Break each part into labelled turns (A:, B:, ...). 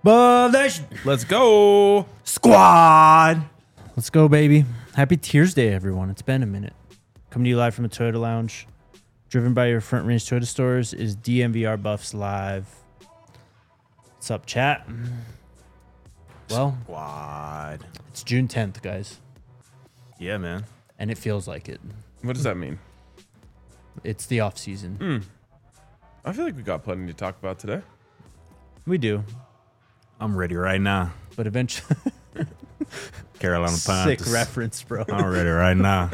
A: Let's go.
B: Squad.
C: Let's go, baby. Happy Tears Day, everyone. It's been a minute. Coming to you live from the Toyota Lounge. Driven by your Front Range Toyota stores is DMVR Buffs Live. What's up, chat? Well,
B: Squad.
C: it's June 10th, guys.
B: Yeah, man.
C: And it feels like it.
A: What does that mean?
C: It's the off season.
A: I feel like we got plenty to talk about today.
C: We do.
B: I'm ready right now.
C: But eventually,
B: Carolina Panthers.
C: sick reference, bro.
B: I'm ready right now.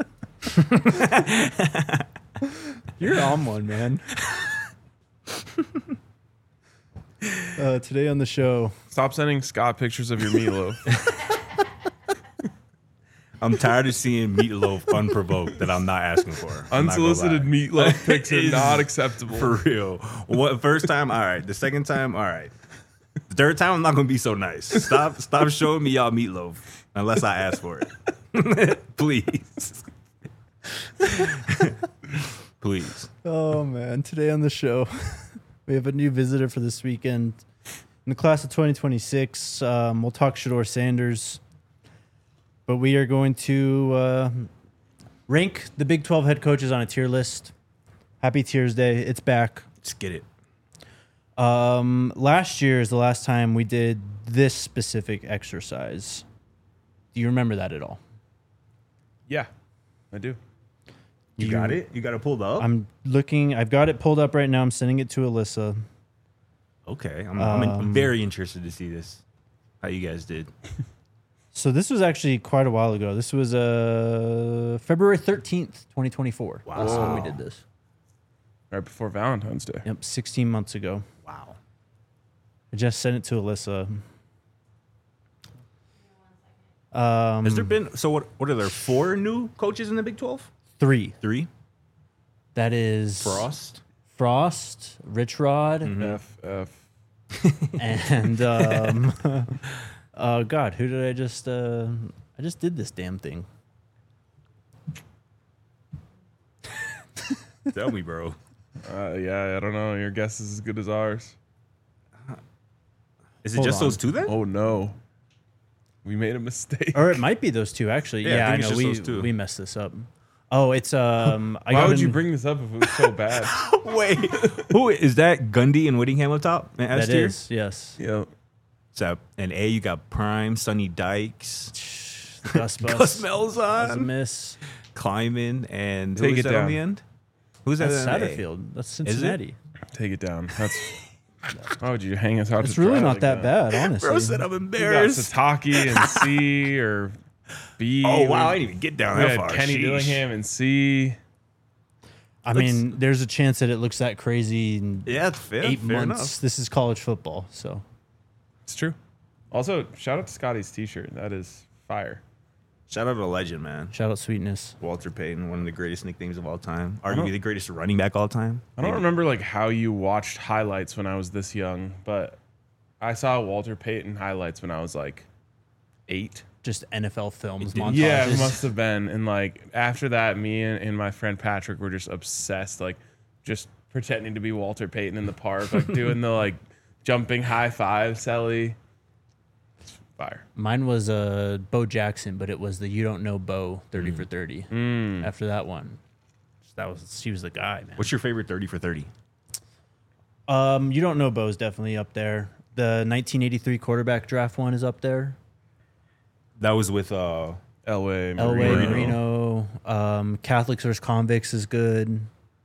C: You're on one, man. Today on the show,
A: Stop sending Scott pictures of your meatloaf.
B: I'm tired of seeing meatloaf unprovoked that I'm not asking for. I'm not gonna
A: Unsolicited
B: lie.
A: meatloaf pics are
B: Is-
A: not acceptable.
B: For real. What first time? All right. The second time, all right. The third time, I'm not gonna be so nice. Stop showing me y'all meatloaf unless I ask for it. Please. Please.
C: oh man, today on the show, we have a new visitor for this weekend. In the class of 2026, we'll talk Shedeur Sanders, but we are going to rank the Big 12 head coaches on a tier list. Happy Tears Day. It's back.
B: Let's get it.
C: Last year is the last time we did this specific exercise. Do you remember that at all?
A: Yeah, I do.
B: You got it? You got it pulled up?
C: I'm looking. I've got it pulled up right now. I'm sending it to Alyssa.
B: Okay. I'm very interested to see this. How you guys did.
C: So this was actually quite a while ago. This was February 13th, 2024.
B: Wow.
C: Last time we did this.
A: Right before Valentine's Day.
C: Yep, 16 months ago.
B: Wow.
C: I just sent it to Alyssa.
B: Has there been what are there 4 new coaches in the Big 12?
C: 3.
B: 3?
C: That is
B: Frost,
C: Rich Rod,
A: FF.
C: and oh God, who did I just did this damn thing.
B: Tell me, bro.
A: Yeah, I don't know. Your guess is as good as ours.
B: Is it
C: Hold
B: just
C: on.
B: those 2 then?
A: Oh, no. We made a mistake.
C: Or it might be those 2 actually.
B: Yeah, I
C: Yeah, I
B: think it's
C: know
B: just those 2.
C: we messed this up. Oh, it's
A: Why would you bring this up if it was so bad?
B: Wait. Who is that? Gundy and Whittingham up top? In S
C: that
B: tier?
C: is, yes.
A: Yeah.
B: So in A, you got Prime, Sonny Dykes,
C: Gus
B: Gus
C: was a
B: Malzahn,
C: miss.
B: Klyman, and
A: Take
B: who
A: it
B: is that on
A: down.
B: the end? Who's that?
C: That's
B: in A?
C: Satterfield. That's Cincinnati.
A: Take it down. That's. Why would you hang us out?
C: It's
A: to
C: really
A: dry
C: not
A: like
C: that bad, honestly.
B: Bro said I'm
A: We got
B: embarrassed.
A: Sataki and C or B.
B: Oh, wow. I didn't even get down
A: We
B: that
A: had
B: far.
A: Kenny
B: Sheesh.
A: Dillingham and C.
C: I mean, there's a chance that it looks that crazy in
B: Yeah, that's fair.
C: 8
B: fair
C: months.
B: enough.
C: This is college football, so
A: It's true. Also, shout out to Scotty's T-shirt. That is fire.
B: Shout out to a legend, man.
C: shout out Sweetness.
B: Walter Payton, one of the greatest nicknames of all time. Arguably the greatest running back all time.
A: I don't remember like how you watched highlights when I was this young, but I saw Walter Payton highlights when I was like 8.
C: Just NFL films,
B: did-
C: montages.
A: Yeah, it must have been. And like after that, me and my friend Patrick were just obsessed, like just pretending to be Walter Payton in the park, like doing the like jumping high five, Selly. It's fire.
C: Mine was Bo Jackson, but it was the You Don't Know Bo 30 for 30. After that one, she was the guy, man.
B: What's your favorite 30 for 30?
C: You Don't Know Bo is definitely up there. The 1983 quarterback draft one is up there.
B: That was with
A: Elway,
C: Elway, Marino. Catholics versus Convicts is good.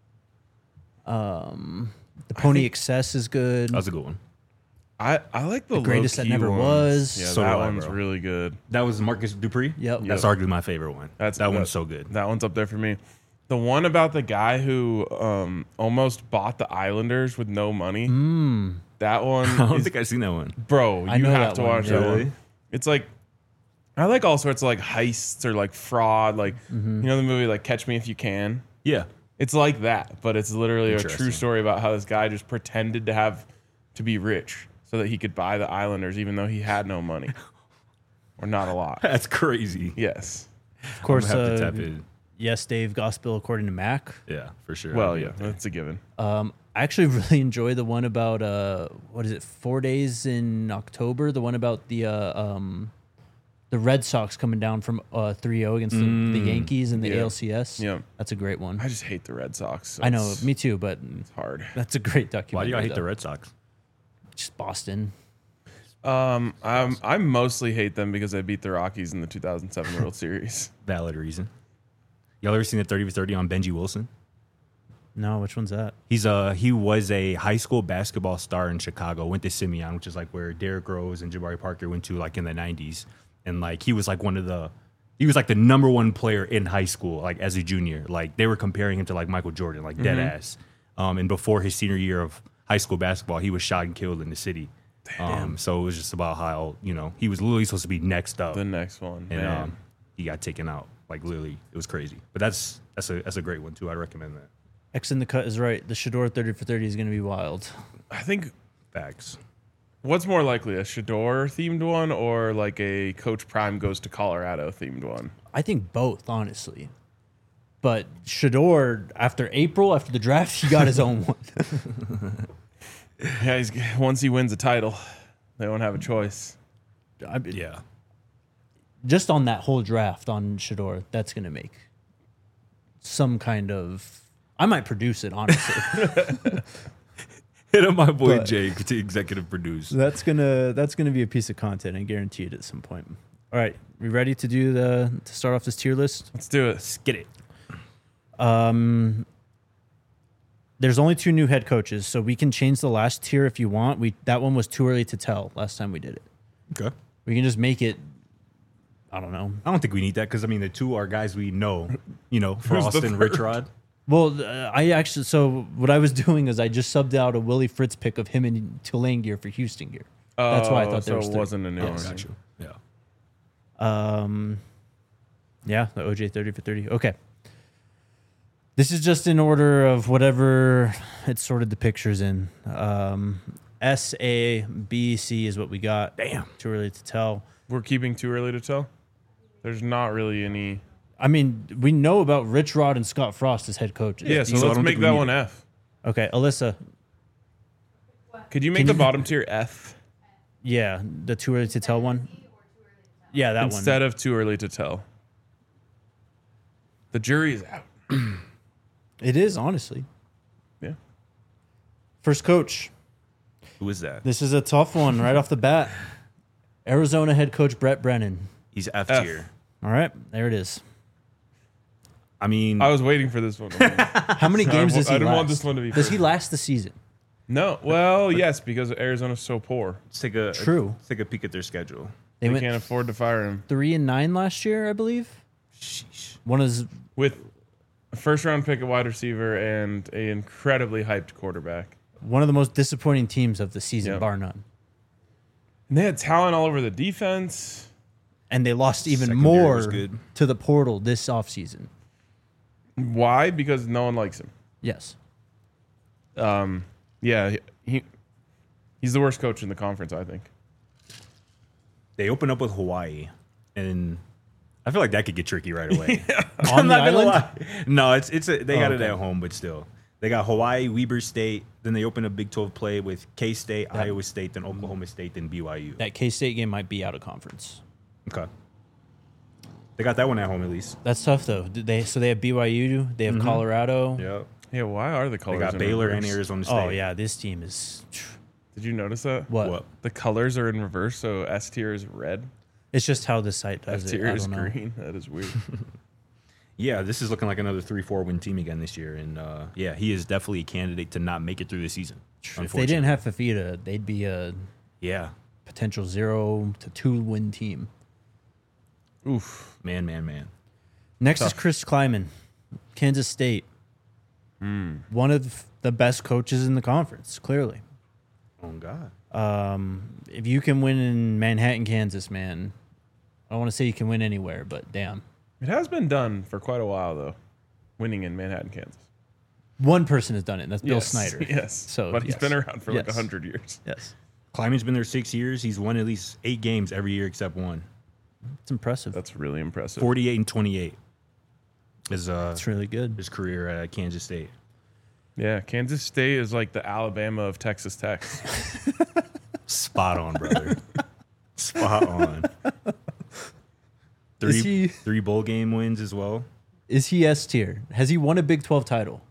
C: The Pony Excess is good.
B: that was a good one.
A: I like the
C: Greatest That
A: low-key
C: Never
A: ones.
C: Was.
A: Yeah,
B: So
A: that
B: do I,
A: one's
B: bro.
A: really good.
B: That was Marcus Dupree.
C: Yep.
B: That's arguably my favorite one.
A: That
B: one's so good.
A: That one's up there for me. The one about the guy who almost bought the Islanders with no money. That one,
B: I don't
A: is,
B: think I've seen that one.
A: bro.
C: I
A: You
C: know
A: have
C: that
A: to
C: one,
A: watch
C: yeah.
A: that
B: Really?
A: one. It's like I like all sorts of like heists or like fraud. Like you know the movie like Catch Me If You Can.
B: Yeah.
A: It's like that, but it's literally a true
B: Interesting.
A: story about how this guy just pretended to be rich so that he could buy the Islanders even though he had no money or not a lot.
B: That's crazy.
A: Yes.
C: Of course,
B: I'm gonna have to tap in.
C: Yes, Dave, Gospel According to Mac.
B: Yeah, for sure.
A: Well,
B: I'll be
A: yeah,
B: up there.
A: that's a given.
C: I actually really enjoy the one about what is it? 4 days in October. The one about the Red Sox coming down from 3-0 against the Yankees in the
A: Yeah.
C: ALCS.
A: Yeah.
C: That's a great one.
A: I just hate the Red Sox. So
C: I know,
A: it's
C: me too, but
A: hard.
C: that's a great
B: Why
C: documentary.
B: do you hate the
C: though.
B: Red Sox?
C: Just Boston.
A: I mostly hate them because I beat the Rockies in the 2007 World Series.
B: Valid reason. Y'all ever seen the 30 for 30 on Benji Wilson?
C: No, which one's that?
B: He was a high school basketball star in Chicago. Went to Simeon, which is like where Derrick Rose and Jabari Parker went to, like in the 90s. And like he was like he was like the number one player in high school, like as a junior. Like they were comparing him to like Michael Jordan, like dead ass. And before his senior year of high school basketball, he was shot and killed in the city. So it was just about how he was literally supposed to be next up,
A: The next one,
B: and
A: man.
B: he got taken out. Like literally, it was crazy. But that's a great one too. I'd recommend that.
C: X in the cut is right. The Shador 30 for 30 is going to be wild.
A: I think
B: Facts.
A: what's more likely, a Shador themed one or like a Coach Prime goes to Colorado themed one?
C: I think both, honestly. But Shador, after the draft, he got his own one.
A: Yeah, once he wins a title, they won't have a choice.
B: Yeah.
C: Just on that whole draft on Shador, that's going to make some kind of. I might produce it, honestly.
B: Hit up my boy
C: But-
B: Jake to executive produce.
C: that's gonna be a piece of content. I guarantee it at some point. All right, we ready to to start off this tier list?
A: Let's do it.
B: Let's get it.
C: There's only 2 new head coaches, so we can change the last tier if you want. That one was too early to tell last time we did it.
B: Okay.
C: We can just make it. I don't know.
B: I don't think we need that because I mean the two are guys we know.
A: Who's
B: Frost
A: the
B: and
A: third?
B: Rich Rod.
C: Well, so what I was doing is I just subbed out a Willie Fritz pick of him in Tulane gear for Houston gear. That's why I thought there
A: so
C: was
A: it
C: 3.
A: wasn't a new one.
B: Got you. Yeah.
C: Yeah, the OJ 30 for 30. Okay. This is just in order of whatever it sorted the pictures in. S, A, B, C is what we got.
B: Damn.
C: Too early to tell.
A: We're keeping too early to tell. There's not really any.
C: I mean, we know about Rich Rod and Scott Frost as head coaches.
A: Yeah, so
B: So I
A: let's
B: don't
A: make
B: think we
A: that
B: need
A: one
B: it.
A: F.
C: Okay, Alyssa.
A: Could you make the bottom tier F
C: Yeah, the too early to tell one. Yeah, that
A: instead
C: one.
A: of too early to tell? The jury is out.
C: It is, honestly.
A: Yeah.
C: First coach.
B: Who is that?
C: This is a tough one right off the bat. Arizona head coach Brett Brennan.
B: He's F
A: F.
B: tier.
C: All right, there it is.
B: I mean,
A: I was waiting for this one.
C: How many games does he
A: I didn't
C: last?
A: want this one to be
C: Does
A: first.
C: he last the season?
A: No. Well, yes, because Arizona's so poor.
B: let's take a
C: True.
B: Let's take a peek at their schedule.
C: They
A: They
C: went
A: can't afford to fire him.
C: 3-9 last year, I believe.
B: Sheesh.
C: One is
A: With a first round pick at wide receiver and an incredibly hyped quarterback.
C: one of the most disappointing teams of the season,
A: Yep.
C: bar none.
A: And they had talent all over the defense.
C: And they lost even
B: Secondary was
C: more
B: good.
C: to the portal this offseason.
A: Why? Because no one likes him.
C: Yes.
A: Yeah, he's the worst coach in the conference, I think.
B: They open up with Hawaii, and I feel like that could get tricky right away.
C: On
B: I'm
C: the
B: not gonna
C: island?
B: lie. No, they got it
C: okay.
B: at home, but still, they got Hawaii, Weber State. Then they open a Big 12 play with K State, Iowa State, then Oklahoma State, then BYU.
C: That K-State game might be out of conference.
B: Okay, they got that one at home at least.
C: That's tough, though. So they have BYU. They have Colorado.
B: Yeah,
A: Yeah, why are the
B: they
A: colors
B: got
A: in
B: Baylor
A: reverse?
B: and Arizona State.
C: Oh, yeah. This team is...
A: Did you notice that?
C: What?
A: The colors are in reverse, so S tier is red,
C: It's just how the site does
A: F
C: it.
A: tier
C: I
A: is
C: don't know.
A: green. That is weird.
B: Yeah, this is looking like another 3-4 win team again this year, and yeah, he is definitely a candidate to not make it through the season.
C: If they didn't have Fafita, they'd be a
B: yeah,
C: potential 0 to 2 win team.
A: Oof.
B: man.
C: Next is
A: Tough.
C: Chris Kleiman, Kansas State. One of the best coaches in the conference, clearly.
B: Oh God.
C: If you can win in Manhattan, Kansas, man, I don't want to say you can win anywhere, but damn.
A: It has been done for quite a while, though, winning in Manhattan, Kansas.
C: One person has done it, and that's Bill
A: Yes,
C: Snyder.
A: Yes.
C: So,
A: but he's
C: yes.
A: been around for like
C: Yes.
A: 100 years.
C: Yes.
B: Kleiman's been there 6 years. He's won at least 8 games every year except one.
C: It's impressive.
A: That's really impressive.
B: 48 and 28 is
C: That's really good.
B: his career at Kansas State.
A: Yeah, Kansas State is like the Alabama of Texas Tech.
B: Spot on, brother. Spot on. Three bowl game wins as well.
C: Is he S tier? Has he won a Big 12 title?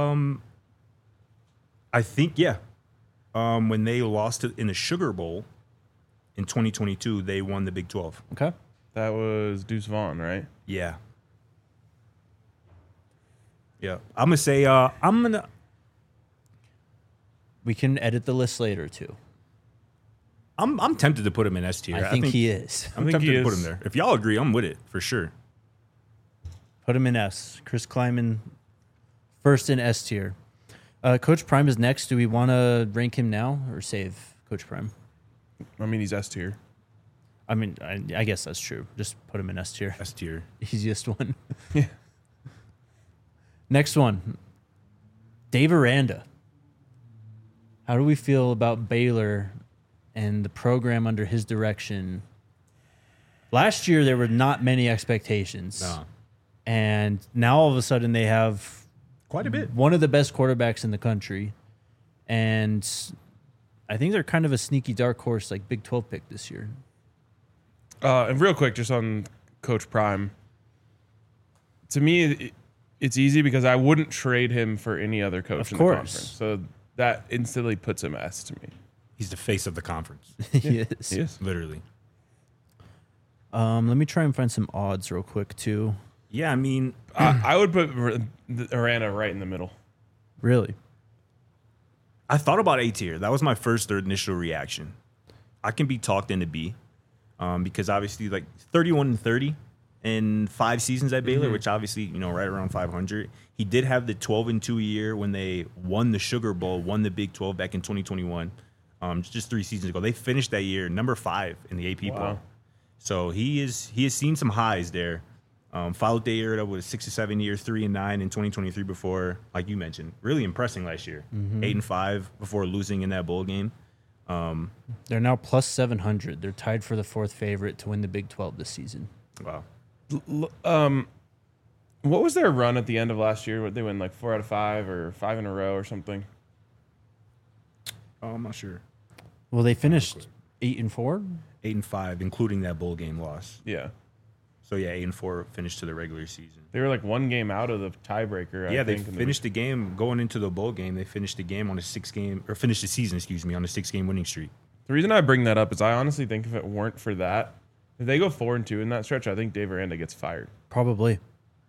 B: I think, yeah. When they lost in the Sugar Bowl in 2022, they won the Big 12.
C: Okay.
A: That was Deuce Vaughn, right?
B: Yeah. Yeah. I'm going to say,
C: We can edit the list later, too.
B: I'm tempted to put him in S tier.
C: I think he is.
B: I'm
A: think
B: tempted
A: he
B: to put
A: is.
B: him there. If y'all agree, I'm with it for sure.
C: Put him in S. Chris Kleiman, first in S tier. Coach Prime is next. Do we want to rank him now or save Coach Prime?
A: I mean, he's S tier.
C: I mean, I guess that's true. Just put him in S tier.
B: S tier.
C: Easiest one.
A: Yeah.
C: Next one. Dave Aranda. How do we feel about Baylor and the program under his direction? Last year, there were not many expectations.
B: No.
C: And now all of a sudden they have
B: Quite a bit.
C: one of the best quarterbacks in the country. And I think they're kind of a sneaky dark horse, like Big 12 pick this year.
A: And real quick, just on Coach Prime. To me, it's easy because I wouldn't trade him for any other coach
C: Of
A: in
C: course.
A: the conference. So that instantly puts him S to me.
B: He's the face of the conference.
C: He is.
A: He is.
B: Literally.
C: Let me try and find some odds real quick, too.
B: Yeah, I mean,
A: I would put Aranda right in the middle.
C: Really?
B: I thought about A tier. That was my first or initial reaction. I can be talked into B because obviously, like 31-30 in 5 seasons at Baylor, which obviously, right around 500. He did have the 12-2 year when they won the Sugar Bowl, won the Big 12 back in 2021, just 3 seasons ago. They finished that year number 5 in the AP poll.
A: Wow.
B: So he has seen some highs there. Followed the year up with 6 or 7 years, 3-9 in 2023 before, like you mentioned, really impressing last year. 8-5 before losing in that bowl game.
C: They're now plus 700. They're tied for the 4th favorite to win the Big 12 this season.
B: Wow.
A: What was their run at the end of last year? What they win like 4 out of 5 or 5 in a row or something?
B: Oh, I'm not sure.
C: Well, they finished 8-4.
B: 8-5, including that bowl game loss.
A: Yeah.
B: So yeah, 8-4 finished to the regular season.
A: They were like 1 game out of the tiebreaker.
B: Yeah,
A: I
B: they
A: think,
B: finished the game going into the bowl game. They finished the game on a 6-game or finished the season, on a 6-game winning streak.
A: The reason I bring that up is I honestly think if it weren't for that, if they go 4-2 in that stretch, I think Dave Aranda gets fired.
C: Probably.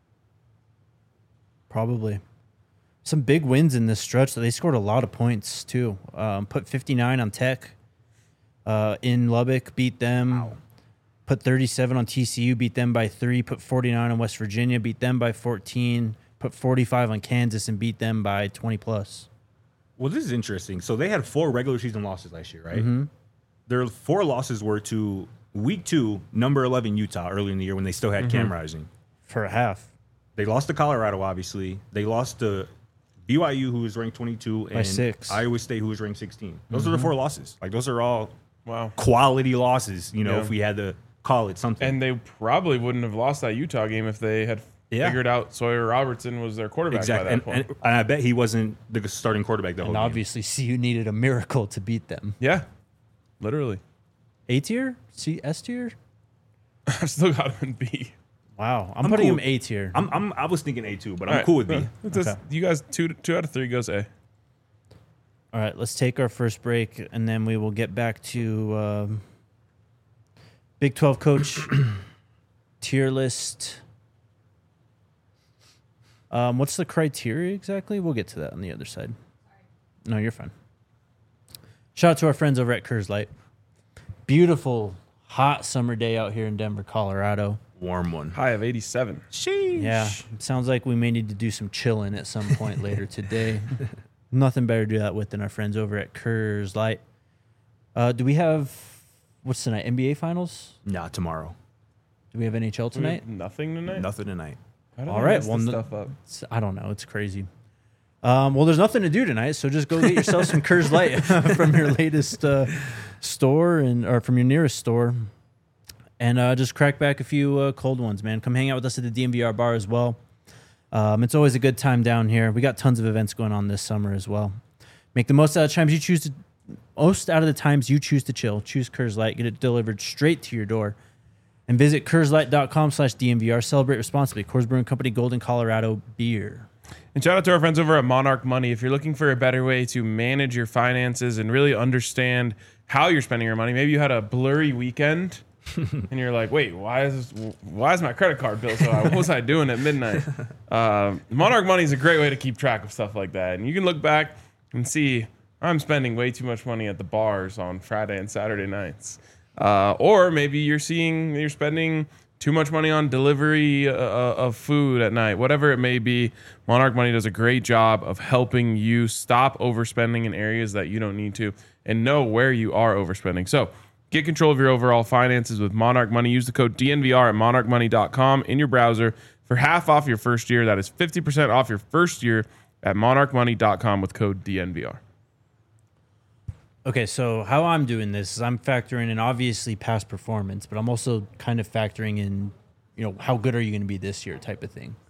C: Some big wins in this stretch. They scored a lot of points, too. Put 59 on Tech in Lubbock, beat them.
B: Wow.
C: Put 37 on TCU, beat them by 3. Put 49 on West Virginia, beat them by 14. Put 45 on Kansas and beat them by 20+.
B: Well, this is interesting. So they had 4 regular season losses last year, right? Their 4 losses were to week 2, number 11 Utah early in the year when they still had Cam Rising.
C: For a half.
B: They lost to Colorado, obviously. They lost to BYU, who was ranked 22, and
C: 6.
B: Iowa State, who was ranked 16. Those are the 4 losses. Like, those are all
A: Wow.
B: quality losses,
A: Yeah.
B: if we had to call it something.
A: And they probably wouldn't have lost that Utah game if they had figured out Sawyer Robertson was their quarterback by that point.
B: And I bet he wasn't the starting quarterback the whole
C: And
B: game.
C: obviously, CU needed a miracle to beat them.
A: Yeah. Literally.
C: A tier? S tier?
A: I still got him in B.
C: Wow. I'm
B: I'm
C: putting
B: cool.
C: him A tier.
B: I was thinking A2, but I'm
A: All right.
B: cool with B.
A: It's just-
C: Okay.
A: You guys, two out of 3 goes A.
C: All right, let's take our first break, and then we will get back to Big 12 coach tier list. What's the criteria exactly? We'll get to that on the other side. No, you're fine. Shout out to our friends over at Coors Light. Beautiful, hot summer day out here in Denver, Colorado.
B: Warm one.
A: High of 87.
B: Sheesh.
C: Yeah, it sounds like we may need to do some chilling at some point later today. Nothing better to do that with than our friends over at Coors Light. Do we have, what's tonight, NBA Finals?
B: Nah, tomorrow.
C: Do we have NHL
A: Do we have
C: tonight?
A: nothing tonight?
B: Nothing tonight.
A: How did
C: All
A: I
C: right,
A: mess
C: well,
A: this
C: no-
A: stuff up?
C: I don't know. It's crazy. Well, there's nothing to do tonight, so just go get yourself some Coors Light from your latest store or from your nearest store, and just crack back a few cold ones, man. Come hang out with us at the DMVR bar as well. It's always a good time down here. We got tons of events going on this summer as well. Make the most out of times you choose to chill. Choose Coors Light. Get it delivered straight to your door. And visit CoorsLight.com/DNVR. Celebrate responsibly. Coors Brewing Company, Golden, Colorado beer.
A: And shout out to our friends over at Monarch Money. If you're looking for a better way to manage your finances and really understand how you're spending your money, maybe you had a blurry weekend and you're like, wait, why is my credit card bill so high? What was I doing at midnight? Monarch Money is a great way to keep track of stuff like that. And you can look back and see, I'm spending way too much money at the bars on Friday and Saturday nights. Or maybe you're spending too much money on delivery of food at night. Whatever it may be, Monarch Money does a great job of helping you stop overspending in areas that you don't need to and know where you are overspending. So get control of your overall finances with Monarch Money. Use the code DNVR at monarchmoney.com in your browser for half off your first year. That is 50% off your first year at monarchmoney.com with code DNVR.
C: Okay, so how I'm doing this is I'm factoring in obviously past performance, but I'm also kind of factoring in, how good are you going to be this year type of thing.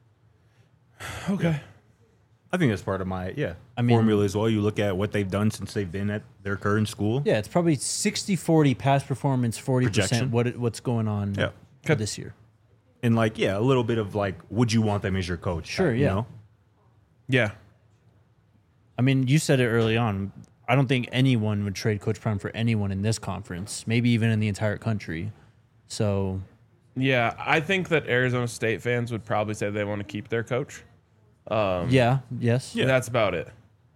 A: Okay.
B: I think that's part of my
C: I mean-
B: formula as well. You look at what they've done since they've been at their current school.
C: Yeah, it's probably 60-40 past performance, 40%
B: Projection.
C: what's going on
B: Yeah.
C: for this year.
B: And a little bit of would you want them as your coach?
C: Sure,
B: You
C: yeah.
B: know?
A: Yeah.
C: I mean, you said it early on. I don't think anyone would trade Coach Prime for anyone in this conference, maybe even in the entire country. So,
A: Yeah, I think that Arizona State fans would probably say they want to keep their coach.
C: yes.
A: Yeah. That's about it.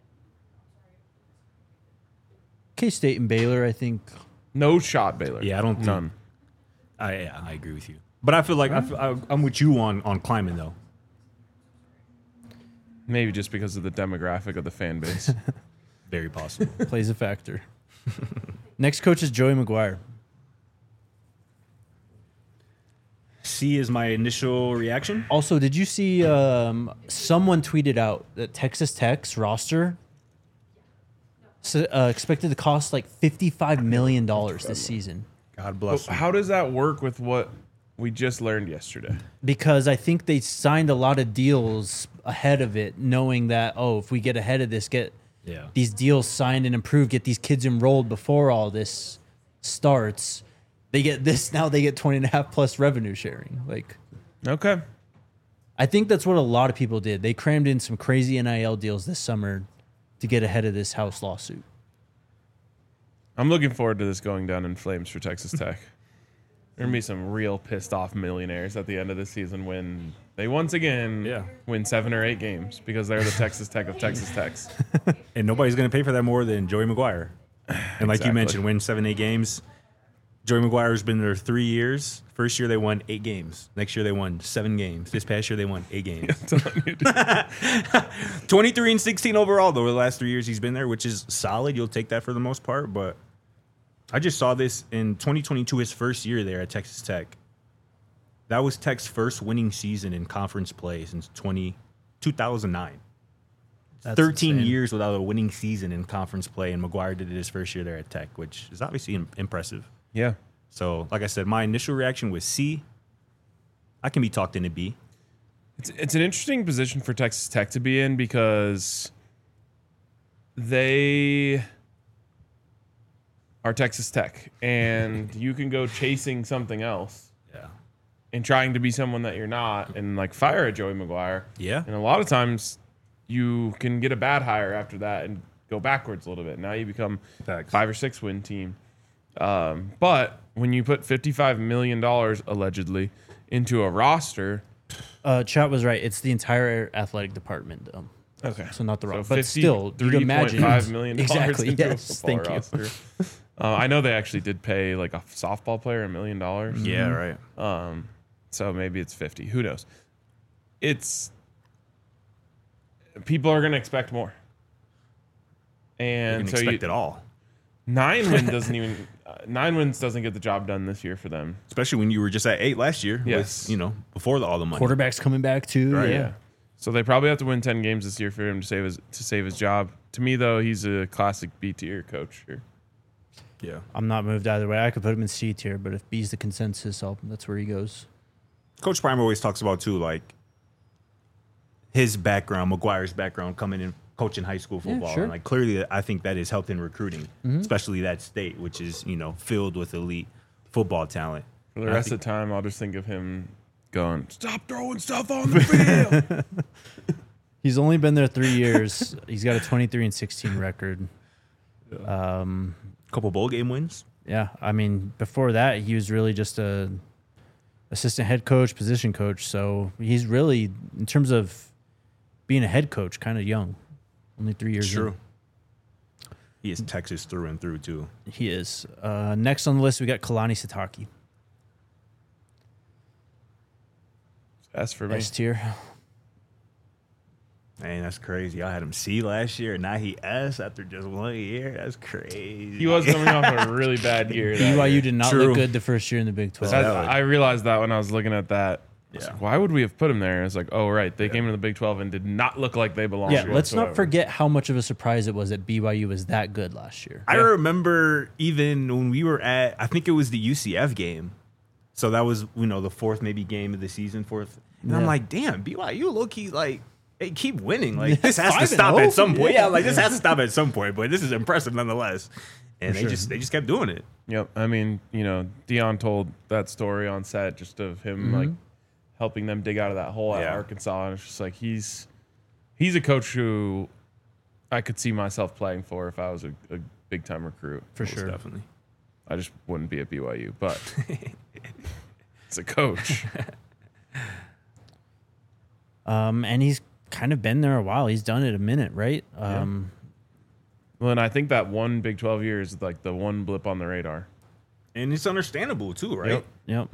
C: K-State and Baylor, I think.
A: No shot, Baylor.
B: Yeah, I don't think-
A: None.
B: I agree with you. But I feel like I'm with you on Kleiman, though.
A: Maybe just because of the demographic of the fan base.
B: Very possible.
C: Plays a factor. Next coach is Joey McGuire.
B: C is my initial reaction.
C: Also, did you see someone tweeted out that Texas Tech's roster expected to cost like $55 million this season?
B: God bless them.
A: How does that work with what we just learned yesterday?
C: Because I think they signed a lot of deals ahead of it, knowing that, if we get ahead of this, get these deals signed and approved, get these kids enrolled before all this starts, they get this, now they get 20.5 plus revenue sharing.
A: Okay.
C: I think that's what a lot of people did. They crammed in some crazy NIL deals this summer to get ahead of this House lawsuit.
A: I'm looking forward to this going down in flames for Texas Tech. There are going to be some real pissed off millionaires at the end of the season when they once again win 7 or 8 games because they're the Texas Tech of Texas Techs.
B: And nobody's going to pay for that more than Joey McGuire. And like you mentioned, win 7, 8 games. Joey McGuire's been there 3 years. First year they won 8 games. Next year they won 7 games. This past year they won 8 games. 23 and 16 overall though. The last 3 years he's been there, which is solid. You'll take that for the most part. But I just saw this in 2022, his first year there at Texas Tech. That was Tech's first winning season in conference play since 2009.
C: That's
B: 13
C: insane.
B: years without a winning season in conference play, and McGuire did it his first year there at Tech, which is obviously impressive.
A: Yeah.
B: So, like I said, my initial reaction was C. I can be talked into B.
A: It's an interesting position for Texas Tech to be in because they are Texas Tech, and you can go chasing something else
B: Yeah.
A: and trying to be someone that you're not and fire a Joey McGuire.
B: Yeah.
A: And a lot of times you can get a bad hire after that and go backwards a little bit. Now you become
B: Facts.
A: 5 or 6 win team. But when you put $55 million allegedly into a roster,
C: Chat was right. It's the entire athletic department, though.
A: okay,
C: So not the wrong.
A: so
C: But still, you can imagine.
A: $53.5 million
C: Exactly.
A: into
C: Yes.
A: a football
C: Thank you.
A: roster. I know they actually did pay a softball player $1 million.
B: Yeah, right.
A: So maybe it's 50. Who knows? People are going to expect more.
B: You
A: And
B: can
A: so
B: expect it all.
A: 9 wins doesn't get the job done this year for them.
B: Especially when you were just at 8 last year.
A: Yes.
B: With, before all the money.
C: Quarterback's coming back, too.
B: Right.
C: Yeah.
A: So they probably have to win 10 games this year for him to save his job. To me, though, he's a classic B tier coach here.
B: Yeah.
C: I'm not moved either way. I could put him in C tier, but if B's the consensus, that's where he goes.
B: Coach Prime always talks about, too, his background, McGuire's background, coming in coaching high school football.
C: sure.
B: And like clearly, I think that has helped in recruiting, especially that state, which is filled with elite football talent.
A: For the rest of the time, I'll just think of him going, "Stop throwing stuff on the field."
C: He's only been there 3 years. He's got a 23-16 record.
B: Couple bowl game wins.
C: Yeah, I mean, before that, he was really just a assistant head coach, position coach. So he's really, in terms of being a head coach, kind of young. Only 3 years.
B: True.
C: In.
B: He is Texas through and through too.
C: He is. Next on the list, we got Kalani Sitake.
A: That's for me.
C: S tier.
B: Man, that's crazy. I had him C last year, and now he S after just 1 year. That's crazy.
A: He was coming off a really bad year. that
C: BYU
A: year.
C: did not
B: True.
C: look good the first year in the Big 12.
A: I realized that when I was looking at that. I was
B: Yeah.
A: like, why would we have put him there? It's like, oh, right. They came into the Big 12 and did not look like they belonged.
C: Yeah,
A: here
C: let's not
A: whatsoever.
C: forget how much of a surprise it was that BYU was that good last year.
B: I remember even when we were at, I think it was the UCF game. So that was, the fourth maybe game of the season, fourth. And I'm
C: Yeah. like,
B: like, damn, BYU low-key, like, they keep winning. Like,
C: Yeah,
B: this has to
C: 5-0.
B: stop at some point.
C: Yeah.
B: Yeah, like, this has to stop at some point, but this is impressive nonetheless. And
C: For
B: they
C: sure.
B: just kept doing it.
A: Yep. I mean, Dion told that story on set just of him like helping them dig out of that hole at
B: Yeah.
A: Arkansas. And it's just like he's a coach who I could see myself playing for if I was a big time recruit.
C: For
B: Most
C: sure.
B: Definitely.
A: I just wouldn't be at BYU, but it's a coach.
C: And he's kind of been there a while. He's done it a minute, right?
A: Well, and I think that one Big 12 year is like the one blip on the radar.
B: And it's understandable too, right?
A: Yep.
C: Yep.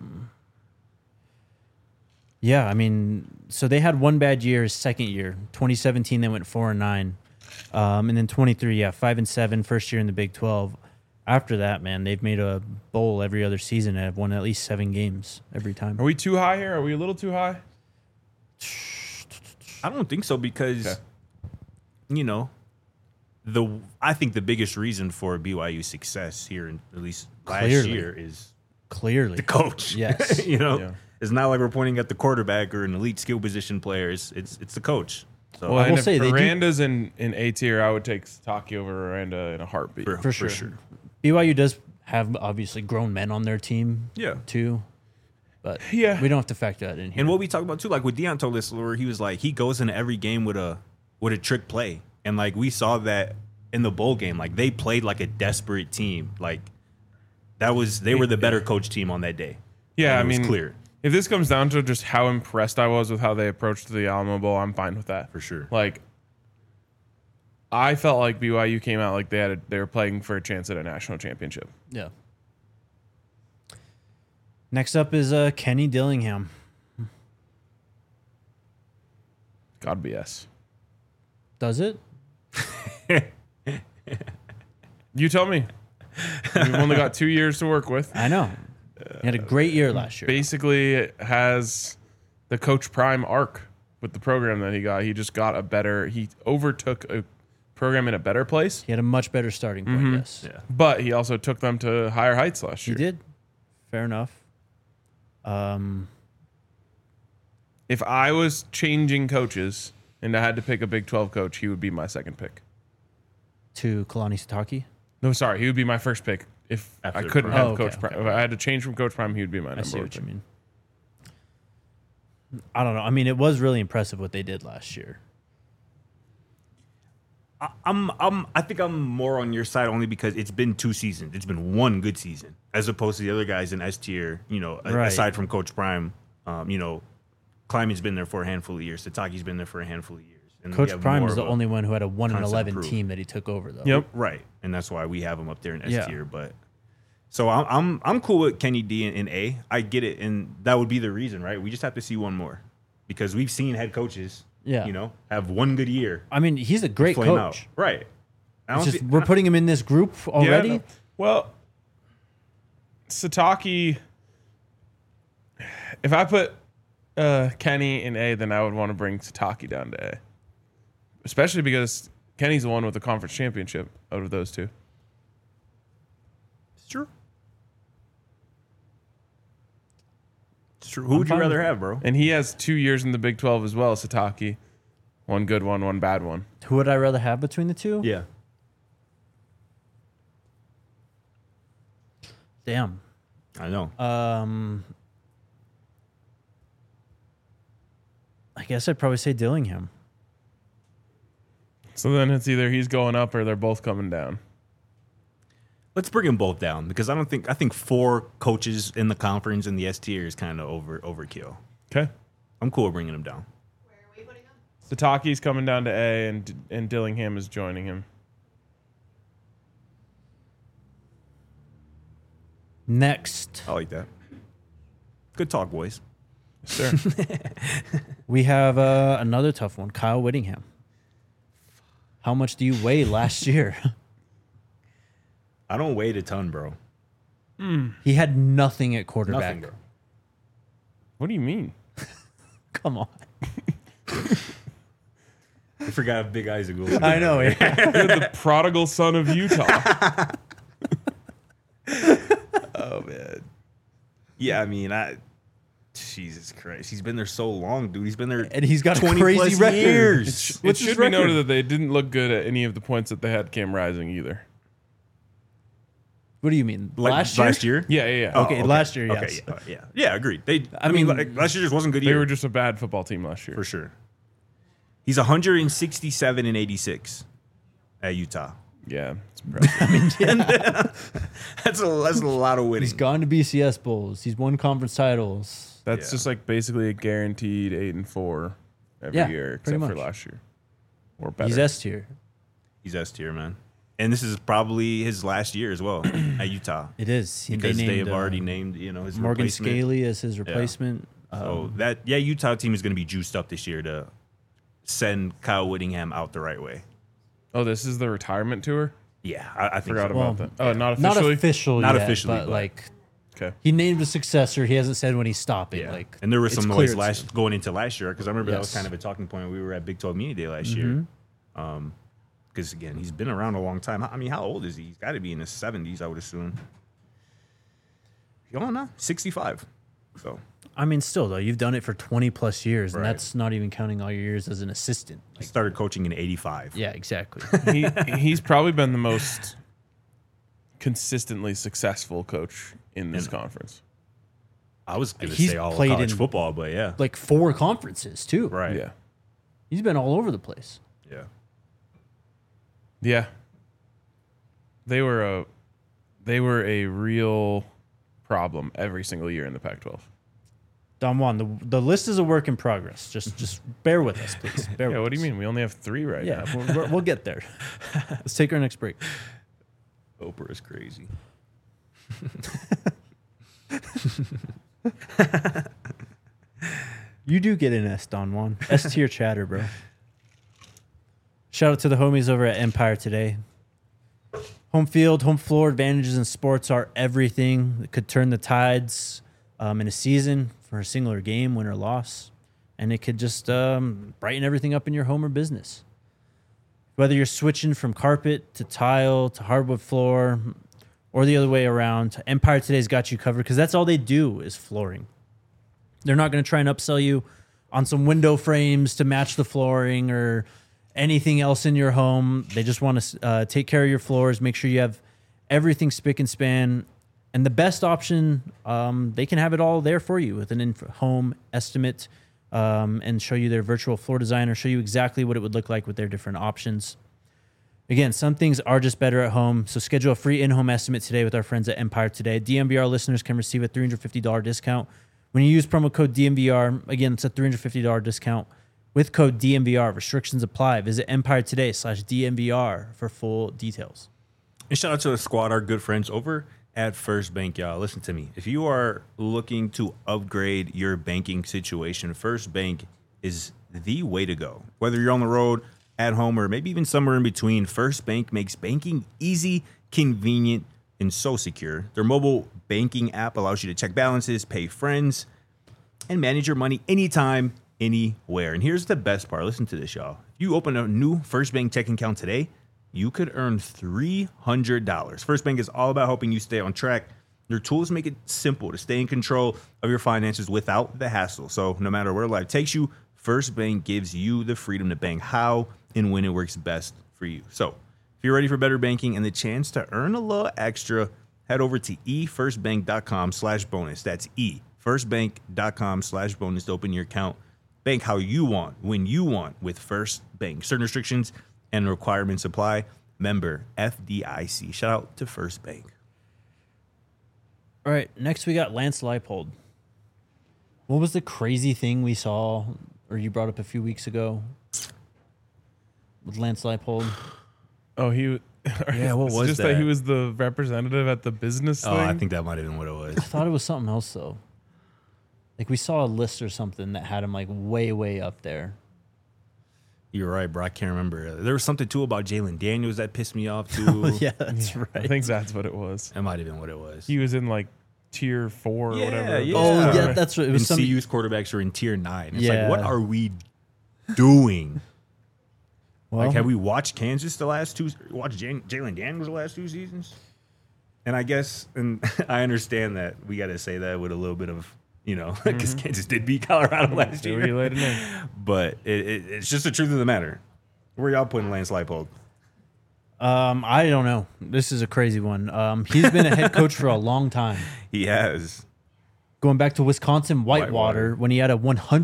C: Yeah, I mean, so they had one bad year, his second year. 2017, they went 4-9. And then 23, 5-7, first year in the Big 12. After that, man, they've made a bowl every other season and have won at least 7 games every time.
A: Are we too high here? Are we a little too high?
B: I don't think so because,
A: Okay.
B: I think the biggest reason for BYU's success here, in, at least last
C: Clearly.
B: year, is
C: Clearly.
B: the coach.
C: Yes.
A: Yeah.
B: It's not like we're pointing at the quarterback or an elite skill position players. It's the coach. So
A: Well,
C: I
A: and
C: will
A: if
C: say they do-
A: Miranda's in A tier, I would take Satake over Miranda in a heartbeat.
C: For sure. BYU does have, obviously, grown men on their team,
B: Yeah.
C: too. But
A: Yeah.
C: we don't have to factor that in here.
B: And what we talked about too, like with Dion told us, where he was like, he goes into every game with a trick play, and like we saw that in the bowl game, like they played like a desperate team. Like they were the better coach team on that day.
A: Yeah,
B: And
A: I
B: it was
A: mean,
B: clear
A: if this comes down to just how impressed I was with how they approached the Alamo Bowl, I'm fine with that.
B: for sure.
A: Like, I felt like BYU came out like they were playing for a chance at a national championship.
C: Yeah. Next up is Kenny Dillingham.
A: God BS.
C: Does it?
A: You tell me. We've only got 2 years to work with.
C: I know. He had a great year last year.
A: Basically, has the Coach Prime arc with the program that he got. He just got he overtook a program in a better place,
C: He had a much better starting point, yes.
B: Yeah.
A: but he also took them to higher heights last
C: He
A: year.
C: did. Fair enough.
A: If I was changing coaches and I had to pick a Big 12 coach, he would be my second pick.
C: To Kalani Sitake.
A: No, sorry, he would be my first pick. If I
B: After
A: couldn't
B: Prime.
A: have
C: Oh, okay,
A: Coach Prime,
C: okay.
A: if I had to change from Coach Prime, he would be my
C: I
A: number
C: see
A: one
C: what you
A: pick.
C: mean. I don't know. I mean, it was really impressive what they did last year.
B: I think I'm more on your side only because it's been 2 seasons. It's been one good season as opposed to the other guys in S tier.
C: Right.
B: Aside from Coach Prime, Kleiman's been there for a handful of years. Satake's been there for a handful of years. And we
C: Coach
B: have
C: Prime
B: more
C: is the
B: of a-
C: only one who had a 1-11
B: proof.
C: team that he took over, though.
A: Yep.
B: Right, and that's why we have him up there in S
C: Yeah.
B: tier. But so I'm cool with Kenny D in A. I get it, and that would be the reason, right? We just have to see one more because we've seen head coaches,
C: Yeah.
B: have one good year,
C: I mean, he's a great
B: flame out.
C: coach.
B: Right. I
C: It's
B: don't
C: just
B: thi-
C: we're putting him in this group already.
A: Yeah, no. Well, Satake, if I put Kenny in A, then I would want to bring Satake down to A. Especially because Kenny's the one with the conference championship out of those two.
B: It's true. It's true. Who would you
C: fine
B: rather
C: with
B: have, bro?
A: And he has 2 years in the Big 12 as well, Satake. One good one, one bad one.
C: Who would I rather have between the two?
B: Yeah.
C: Damn.
B: I know.
C: I guess I'd probably say Dillingham.
A: So then it's either he's going up or they're both coming down.
B: Let's bring them both down because I think 4 coaches in the conference in the S tier is kind of overkill.
A: Okay.
B: I'm cool with bringing them down.
D: Where are we putting them?
A: Sataki's coming down to A, and Dillingham is joining him.
C: Next,
B: I like that. Good talk, boys.
A: Sure.
C: we have another tough one. Kyle Whittingham. How much do you weigh last year?
B: I don't weigh a ton, bro.
C: He had nothing at quarterback.
B: Nothing, bro.
A: What do you mean?
C: Come on.
B: I forgot how big Isaac was.
C: I know. Yeah.
A: You're the prodigal son of Utah.
B: Oh man. Yeah, I mean, Jesus Christ, he's been there so long, dude. He's been there,
C: And he's got a
B: 20
C: crazy
B: plus
C: record.
B: years.
A: It
C: What's his
A: should be
C: record?
A: noted that they didn't look good at any of the points that they had Cam Rising either.
C: What do you mean?
B: Like,
C: last year?
A: Yeah.
C: Okay, last year,
B: Okay,
C: yes.
B: yeah, agreed.
C: I mean,
B: last year just wasn't a good
A: They
B: year
A: were just a bad football team last year.
B: for sure. He's 167 and 86 at Utah.
A: Yeah, it's impressive.
B: That's a lot of winning.
C: He's gone to BCS bowls. He's won conference titles.
A: That's
B: Yeah.
A: just like basically a guaranteed 8-4 every
C: Yeah,
A: year,
C: pretty
A: except for
C: much.
A: last year. Or better.
C: He's S tier.
B: He's S tier, man. And this is probably his last year as well at Utah.
C: It is.
B: Because
C: They
B: they
C: named,
B: have already named, his
C: Morgan
B: replacement.
C: Scaley as his replacement.
B: So Utah team is going to be juiced up this year to send Kyle Whittingham out the right way.
A: Oh, this is the retirement tour?
B: Yeah, I think
A: Forgot
B: so.
A: about
C: Well,
A: that. Oh, not
C: Not
A: officially?
C: official
B: Not
C: yet,
B: officially,
C: but
B: but-
C: like
A: Okay.
C: he named a successor. He hasn't said when he's stopping.
B: Yeah.
C: Like,
B: And there was
C: it's
B: some
C: clear
B: noise
C: it's-
B: going into last year because I remember that was
C: Yes.
B: kind of a talking point when we were at Big 12 Media Day last year. Because again, he's been around a long time. I mean, how old is he? He's got to be in his 70s, I would assume. You don't know? 65. So
C: I mean, still though, you've done it for 20 plus years, and
B: Right.
C: that's not even counting all your years as an assistant.
B: he started coaching in 85.
C: Yeah, exactly.
A: He's probably been the most consistently successful coach in this conference.
B: I was going to
C: He's
B: say all of
C: played
B: college
C: in-
B: football, but yeah.
C: Like 4 conferences too.
B: Right.
A: Yeah.
C: He's been all over the place.
B: Yeah.
A: Yeah. They were a real problem every single year in the Pac-12.
C: Don Juan, the list is a work in progress. Just bear with us, please. Bear
A: Yeah,
C: with
A: what do you
C: us.
A: mean? We only have 3 right
C: Yeah,
A: now.
C: we'll get there. Let's take our next break.
B: Oprah is crazy.
C: You do get an S, Don Juan. S tier chatter, bro. Shout out to the homies over at Empire today. Home field, home floor advantages in sports are everything that could turn the tides in a season for a singular game, win or loss. And it could just brighten everything up in your home or business. Whether you're switching from carpet to tile to hardwood floor or the other way around, Empire Today's got you covered because that's all they do is flooring. They're not going to try and upsell you on some window frames to match the flooring or anything else in your home. They just want to take care of your floors, make sure you have everything spick and span. And the best option, they can have it all there for you with an in-home estimate and show you their virtual floor designer, show you exactly what it would look like with their different options. Again, some things are just better at home, so schedule a free in-home estimate today with our friends at Empire Today. DMVR listeners can receive a $350 discount when you use promo code DMVR. Again, it's a $350 discount with code DMVR. Restrictions apply. Visit EmpireToday/DMVR for full details.
B: And shout out to the squad, our good friends over at First Bank, y'all. Listen to me. If you are looking to upgrade your banking situation, First Bank is the way to go. Whether you're on the road, at home, or maybe even somewhere in between, First Bank makes banking easy, convenient, and so secure. Their mobile banking app allows you to check balances, pay friends, and manage your money anytime, anywhere. And here's the best part. Listen to this, y'all. If you open a new First Bank checking account today, you could earn $300. First Bank is all about helping you stay on track. Their tools make it simple to stay in control of your finances without the hassle. So no matter where life takes you, First Bank gives you the freedom to bank how and when it works best for you. So if you're ready for better banking and the chance to earn a little extra, head over to efirstbank.com/bonus. That's efirstbank.com/bonus to open your account. Bank how you want, when you want with First Bank. Certain restrictions and requirements apply. Member FDIC. Shout out to First Bank.
C: All right, next we got Lance Leipold. What was the crazy thing we saw, or you brought up a few weeks ago with Lance Leipold?
A: Oh,
B: Yeah, what
A: it's
B: was
A: just
B: that?
A: he was the representative at the business thing.
B: Oh, I think that might have been what it was.
C: I thought it was something else though. Like we saw a list or something that had him like way, way up there.
B: You're right, bro. I can't remember. There was something too about Jalen Daniels that pissed me off too.
C: Yeah, that's right.
A: I think that's what it was.
B: That might have been what it was.
A: He was in like tier 4 or
B: Yeah,
A: whatever.
B: yeah.
C: Oh yeah, that's right. It
B: And
C: was some.
B: CU's quarterbacks are in tier 9. It's
C: Yeah.
B: like, what are we doing?
C: Well,
B: Like, have we watched Kansas the last two? Watched Jalen Daniels the last 2 seasons? And I guess, and I understand that we got to say that with a little bit of, because Kansas did beat Colorado last
A: See what you
B: year.
A: later know.
B: But it's just the truth of the matter. Where y'all putting Lance Leipold?
C: I don't know. This is a crazy one. He's been a head coach for a long time.
B: He has.
C: Going back to Wisconsin Whitewater,
B: Whitewater.
C: when he had a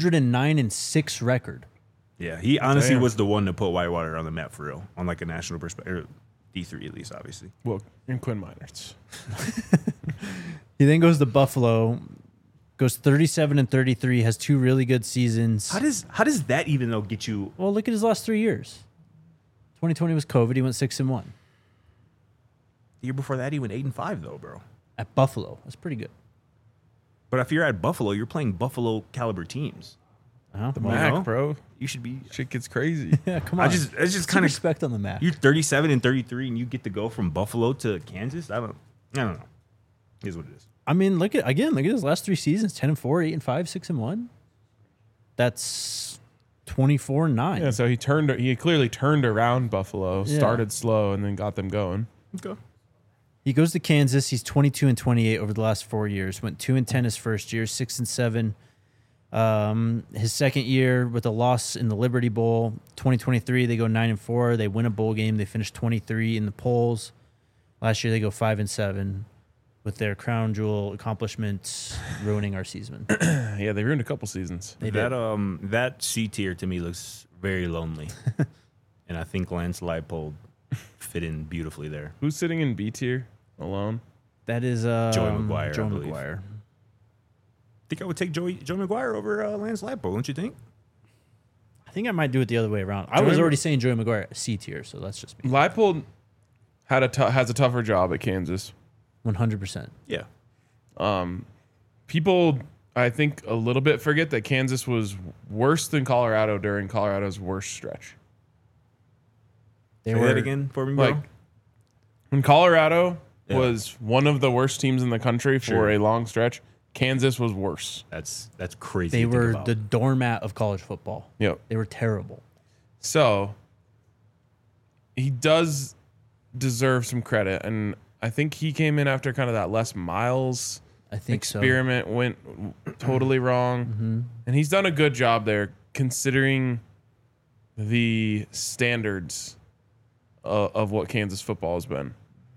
C: 109-6 record.
B: Yeah, he honestly
A: Damn.
B: was the one to put Whitewater on the map for real, on like a national perspective. D3 at least, obviously.
A: Well, in Quinn Miners.
C: He then goes to Buffalo, goes 37-33, has 2 really good seasons.
B: How does that even though get you?
C: Well, look at his last 3 years. 2020 was COVID. He went 6-1
B: The year before that, he went 8-5 though, bro.
C: at Buffalo. That's pretty good.
B: But if you're at Buffalo, you're playing Buffalo caliber teams.
C: The
A: Mac, bro.
B: You should be.
A: Shit gets crazy.
C: Yeah, come on.
B: It's just
C: Some
B: kind of.
C: respect on the map.
B: You're 37-33, and you get to go from Buffalo to Kansas. I don't know. Here's what it is.
C: I mean, look at his last 3 seasons: 10-4, 8-5, 6-1. That's 24-9.
A: Yeah, so he clearly turned around Buffalo,
C: Yeah.
A: started slow, and then got them going.
B: Okay.
C: He goes to Kansas. He's 22-28 over the last 4 years. Went 2-10 his first year, 6-7. His second year with a loss in the Liberty Bowl. 2023, they go 9-4. They win a bowl game. They finish 23 in the polls. Last year, they go 5-7 with their crown jewel accomplishments ruining our season.
A: Yeah, they ruined a couple seasons.
C: They did.
B: That C tier to me looks very lonely, and I think Lance Leipold fit in beautifully there.
A: Who's sitting in B tier alone?
C: That is
B: Maguire, I
C: Joey
B: believe.
C: Maguire.
B: I think I would take Joe McGuire over Lance Leipold, don't you think?
C: I think I might do it the other way around. I was already saying Joey Maguire C tier, so that's just me.
A: Leipold has a tougher job at Kansas.
C: 100%.
B: Yeah.
A: People, I think, a little bit forget that Kansas was worse than Colorado during Colorado's worst stretch.
C: They
B: Say
C: were
B: that again for me, bro.
A: Like, when Colorado
B: Yeah.
A: was one of the worst teams in the country for
B: Sure.
A: a long stretch, Kansas was worse.
B: That's crazy.
C: They
B: to think
C: were
B: about.
C: the doormat of college football.
A: Yep.
C: They were terrible.
A: So he does deserve some credit, and I think he came in after kind of that Les Miles
C: I think so.
A: experiment went totally wrong, and he's done a good job there considering the standards of what Kansas football has been.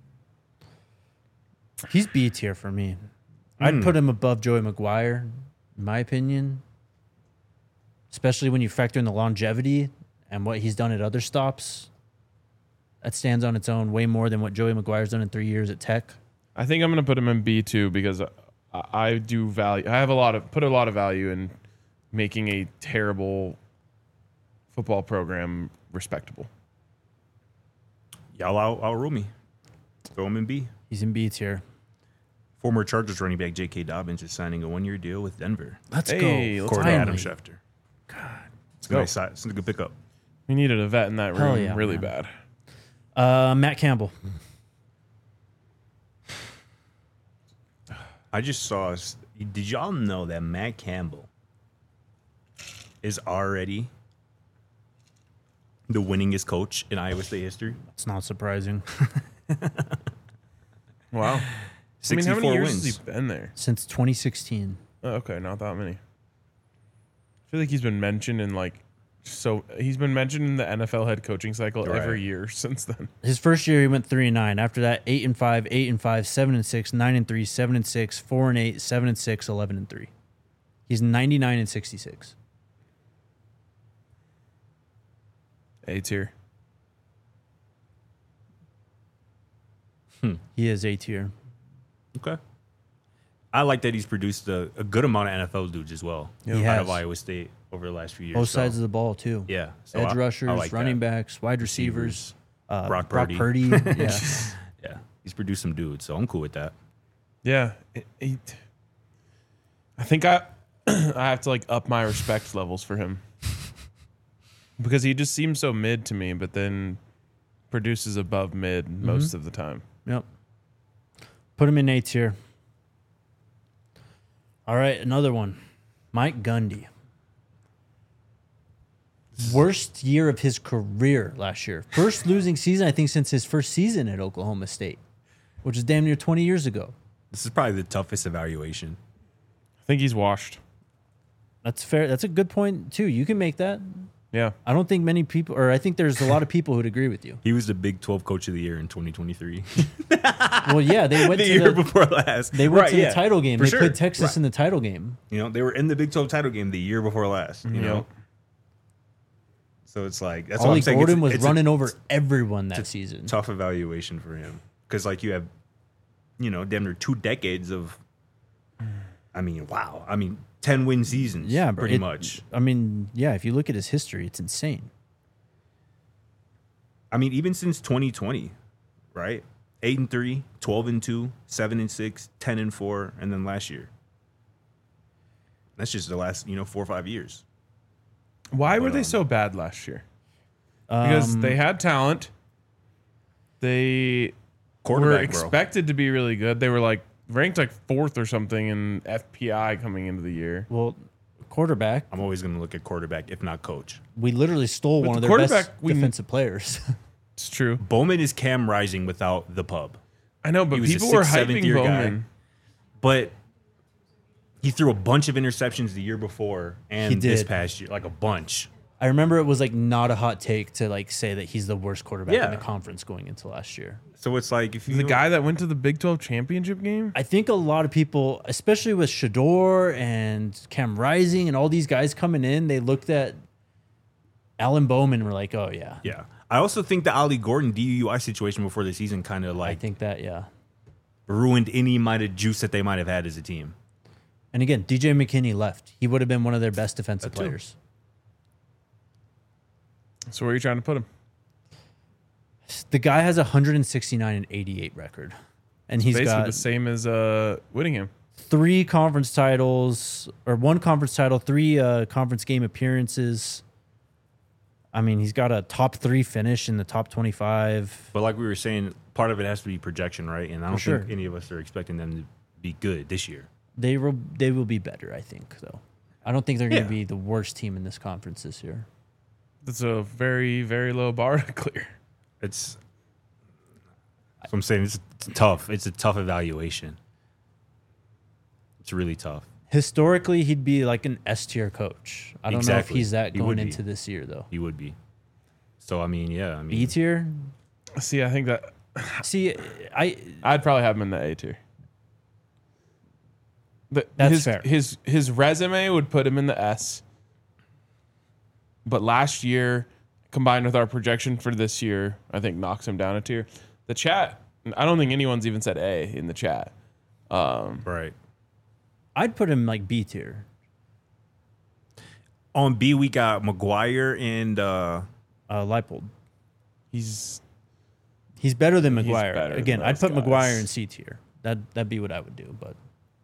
C: He's B tier for me. I'd put him above Joey Maguire, in my opinion. Especially when you factor in the longevity and what he's done at other stops. That stands on its own way more than what Joey Maguire's done in 3 years at Tech.
A: I think I'm going to put him in B2 because I do value. I have a lot of value in making a terrible football program respectable.
B: Y'all outrule me. Throw him in B.
C: He's in B tier.
B: Former Chargers running back J.K. Dobbins is signing a 1-year deal with Denver.
C: Let's
A: Hey,
C: go.
A: let's
B: According to
C: Finally.
B: Adam Schefter. It's
A: go.
B: It's a good pickup.
A: We needed a vet in that
C: Hell
A: room
C: yeah,
A: really
C: man.
A: bad.
C: Matt Campbell.
B: I just saw. Did y'all know that Matt Campbell is already the winningest coach in Iowa State history?
C: It's not surprising.
A: Wow. I mean, how
B: 64
A: many years
B: wins.
A: has he been there?
C: Since 2016.
A: Oh, okay, not that many. I feel like he's been mentioned in he's been mentioned in the NFL head coaching cycle every year since then.
C: His first year he went 3-9. After that, 8-5, 8-5, 7-6, 9-3, 7-6, 4-8, 7-6, 11-3. He's 99-66.
A: A tier.
C: He is A tier.
B: Okay. I like that he's produced a good amount of NFL dudes as well.
C: He
B: Out
C: has.
B: of Iowa State over the last few years.
C: Both sides of the ball, too.
B: Yeah. So
C: Edge
B: I
C: rushers,
B: like
C: running
B: that.
C: backs, wide receivers.
B: Brock
C: Brock
B: Purdy.
C: Purdy. Yeah.
B: Yeah. He's produced some dudes, so I'm cool with that.
A: Yeah. I think I have to up my respect levels for him. Because he just seems so mid to me, but then produces above mid most of the time.
C: Yep. Put him in A tier. All right, another one. Mike Gundy. Worst year of his career last year. First losing season, I think, since his first season at Oklahoma State, which is damn near 20 years ago.
B: This is probably the toughest evaluation.
A: I think he's washed.
C: That's fair. That's a good point, too. You can make that.
A: Yeah.
C: I don't think many people, or I think there's a lot of people who'd agree with you.
B: He was the Big 12 Coach of the Year in 2023.
C: Well, yeah, they went
B: the
C: to
B: year before last.
C: They went
B: Right,
C: to
B: yeah,
C: the title game.
B: for
C: They
B: sure.
C: played Texas
B: Right.
C: in the title game.
B: You know, they were in the Big 12 title game the year before last. You know, so it's like that's what
C: Ollie
B: I'm saying.
C: Gordon was
B: it's
C: running over everyone that season.
B: tough evaluation for him because you have, damn near 2 decades of. I mean, wow. 10-win seasons.
C: Yeah, bro,
B: pretty much.
C: Yeah, if you look at his history, it's insane.
B: Even since 2020, right? 8-3, 12-2, 7-6, 10-4, and then last year. That's just the last, 4 or 5 years.
A: Why were they so bad last year? Because they had talent. They were
B: Quarterback, bro.
A: expected to be really good. They were ranked 4th or something in FPI coming into the year.
C: Well, quarterback,
B: I'm always going to look at quarterback, if not coach.
C: we literally stole one
A: the
C: of their best
A: quarterback,
C: defensive players.
A: It's true.
B: Bowman is Cam Rising without the pub.
A: I know, but
B: He was a
A: people were
B: 6th, 7th
A: hyping
B: year guy.
A: Bowman.
B: But he threw a bunch of interceptions the year before and
C: He did.
B: this past year, a bunch.
C: I remember it was not a hot take to say that he's the worst quarterback in
B: Yeah.
C: the conference going into last year.
B: So it's if you
A: The guy that went to the Big 12 championship game?
C: I think a lot of people, especially with Shador and Cam Rising and all these guys coming in, they looked at Alan Bowman and were like, oh, yeah.
B: Yeah. I also think the Ollie Gordon DUI situation before the season kind of
C: I think that, yeah.
B: ruined any amount of juice that they might have had as a team.
C: And again, DJ McKinney left. He would have been one of their best defensive
B: That too.
C: players.
A: So where are you trying to put him?
C: The guy has a 169-88 record. And he's
A: Basically
C: got
A: the same as Whittingham.
C: 3 conference titles, or 1 conference title, 3 conference game appearances. He's got a top 3 finish in the top 25.
B: But like we were saying, part of it has to be projection, right? And I don't
C: sure.
B: think any of us are expecting them to be good this year.
C: They will be better, I think, though. I don't think they're going to
B: Yeah.
C: be the worst team in this conference this year.
A: That's a very, very low bar to clear.
B: That's what I'm saying. It's tough. It's a tough evaluation. It's really tough.
C: Historically, he'd be like an S tier coach. I don't know if
B: Exactly.
C: he's that
B: He
C: going
B: would be.
C: into this year, though.
B: He would be. So yeah.
C: B tier?
A: See, I think that
C: See,
A: I'd probably have him in the A tier.
C: That's fair.
A: His resume would put him in the S. But last year, combined with our projection for this year, I think knocks him down a tier. The chat, I don't think anyone's even said A in the chat.
B: Right.
C: I'd put him like B tier.
B: On B, we got McGuire and
C: Leipold.
A: He's
C: He's better than
A: He's
C: McGuire.
A: better than
C: Again, I'd
A: those
C: put
A: guys.
C: McGuire in C tier. That'd be what I would do. But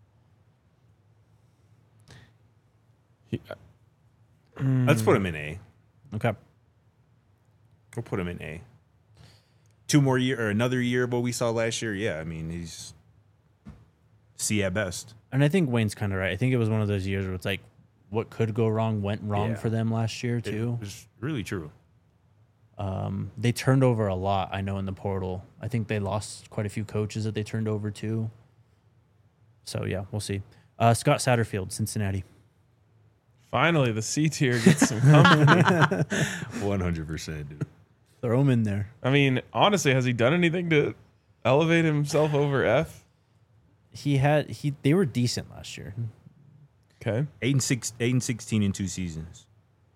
B: let's put him in A.
C: okay,
B: We'll put him in A. 2 more year or another year of what we saw last year. Yeah, he's C at best.
C: and I think Wayne's kind of right. I think it was one of those years where it's like, what could go wrong went wrong
B: Yeah.
C: for them last year
B: It
C: too.
B: was really true.
C: They turned over a lot. I know in the portal. I think they lost quite a few coaches that they turned over too. So yeah, we'll see. Scott Satterfield, Cincinnati.
A: Finally, the C tier gets some company.
B: 100%, dude.
C: Throw him in there.
A: I mean, honestly, has he done anything to elevate himself over F?
C: They were decent last year.
A: Okay.
B: 8-16 in 2 seasons.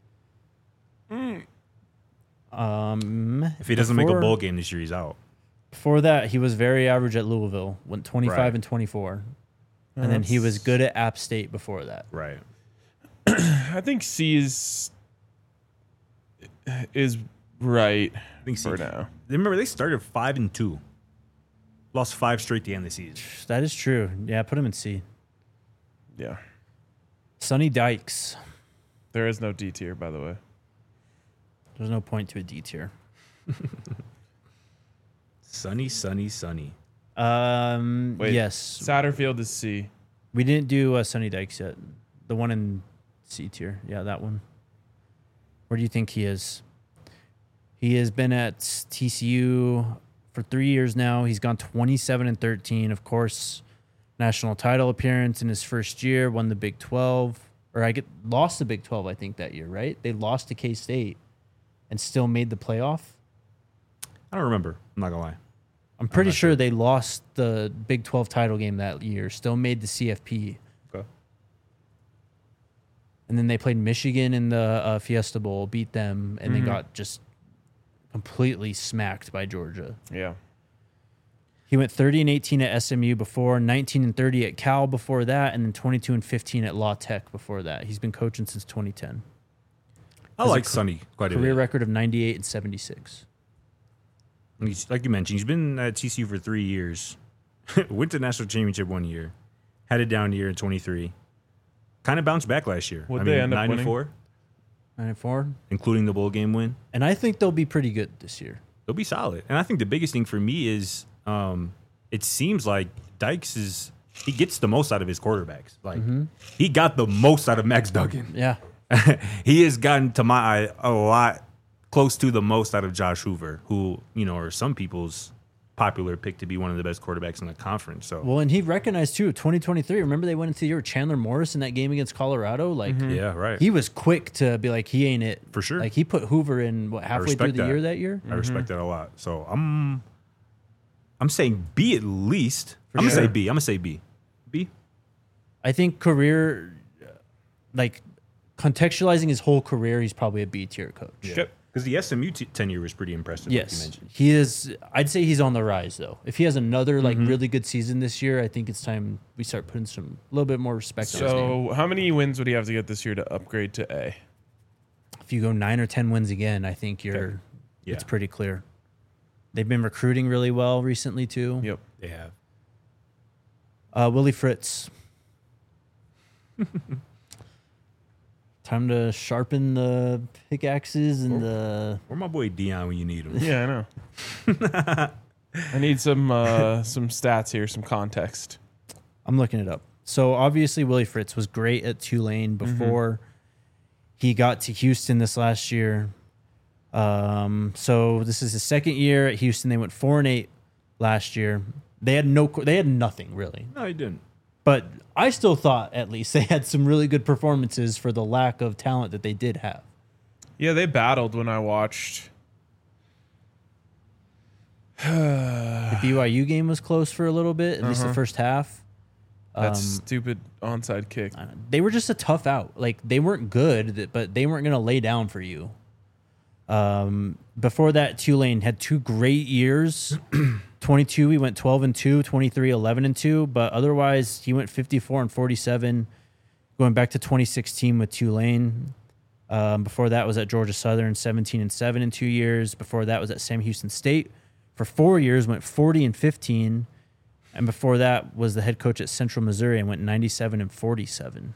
B: If he doesn't make a bowl game this year, he's out.
C: Before that, he was very average at Louisville, went 25
B: Right.
C: and 24. And then he was good at App State before that.
B: Right.
A: I think C is right
B: I think
A: for now.
B: Remember, they started 5-2. Lost 5 straight to end the season.
C: That is true. Yeah, put him in C.
A: Yeah.
C: Sonny Dykes.
A: There is no D tier, by the way.
C: There's no point to a D tier.
B: Sunny.
A: Wait,
C: Yes.
A: Satterfield is C.
C: We didn't do Sonny Dykes yet. The one in C tier. Yeah, that one. Where do you think he is? He has been at TCU for 3 years now. He's gone 27 and 13. Of course, national title appearance in his first year. Won the Big 12, or lost the Big 12. I think that year, right? They lost to K-State and still made the playoff.
B: I don't remember. I'm not going to lie.
C: I'm pretty sure they lost the Big 12 title game that year. Still made the CFP.
B: Okay.
C: And then they played Michigan in the Fiesta Bowl, beat them, and then got just completely smacked by Georgia.
A: Yeah.
C: He went 30 and 18 at SMU before, 19 and 30 at Cal before that, and then 22 and 15 at La Tech before that. He's been coaching since 2010.
B: I like Sonny quite a
C: Career
B: bit.
C: record of 98 and 76.
B: Like you mentioned, he's been at TCU for 3 years. Went to national championship 1 year. Had a down year in 23. Kind of bounced back last year.
A: What'd they end up
B: 9-4,
C: 9-4.
B: including the bowl game win.
C: And I think they'll be pretty good this year.
B: They'll be solid. And I think the biggest thing for me is it seems like Dykes he gets the most out of his quarterbacks. Like he got the most out of Max Duggan.
C: Yeah.
B: He has gotten, to my eye, a lot close to the most out of Josh Hoover, who, are some people's popular pick to be one of the best quarterbacks in the conference. So
C: Well, and he recognized, too, 2023. Remember they went into the year with Chandler Morris in that game against Colorado? Like,
B: yeah, right.
C: he was quick to be like, he ain't it.
B: For sure.
C: Like, he put Hoover in, halfway through
B: respect
C: the
B: that.
C: year that year?
B: I respect that a lot. So I'm saying B at least. I'm
A: sure.
B: gonna say B. I'm gonna say B. B.
C: I think career, like, contextualizing his whole career, he's probably a B-tier coach.
A: Yep.
B: Because the SMU tenure was pretty impressive. Like you
C: Yes,
B: mentioned.
C: he is. I'd say he's on the rise, though. If he has another really good season this year, I think it's time we start putting a little bit more respect on his name.
A: So, how many wins would he have to get this year to upgrade to A?
C: If you go 9 or 10 wins again, I think
B: Yeah.
C: it's pretty clear. They've been recruiting really well recently too.
A: Yep.
B: They have.
C: Willie Fritz. Time to sharpen the pickaxes and the.
B: Where my boy Dion when you need him?
A: Yeah, I know. I need some stats here, some context.
C: I'm looking it up. So obviously Willie Fritz was great at Tulane before he got to Houston this last year. So this is his second year at Houston. They went 4-8 last year. They had nothing really.
B: No, he didn't.
C: But I still thought at least they had some really good performances for the lack of talent that they did have.
A: Yeah, they battled when I watched.
C: The BYU game was close for a little bit, at least the first half.
A: That stupid onside kick.
C: They were just a tough out. Like, they weren't good, but they weren't going to lay down for you. Before that, Tulane had 2 great years. 22, he went 12-2, 23, 11-2, but otherwise he went 54-47, going back to 2016 with Tulane. Before that was at Georgia Southern, 17-7 in 2 years. Before that was at Sam Houston State. For 4 years, went 40-15. And before that was the head coach at Central Missouri and went 97-47.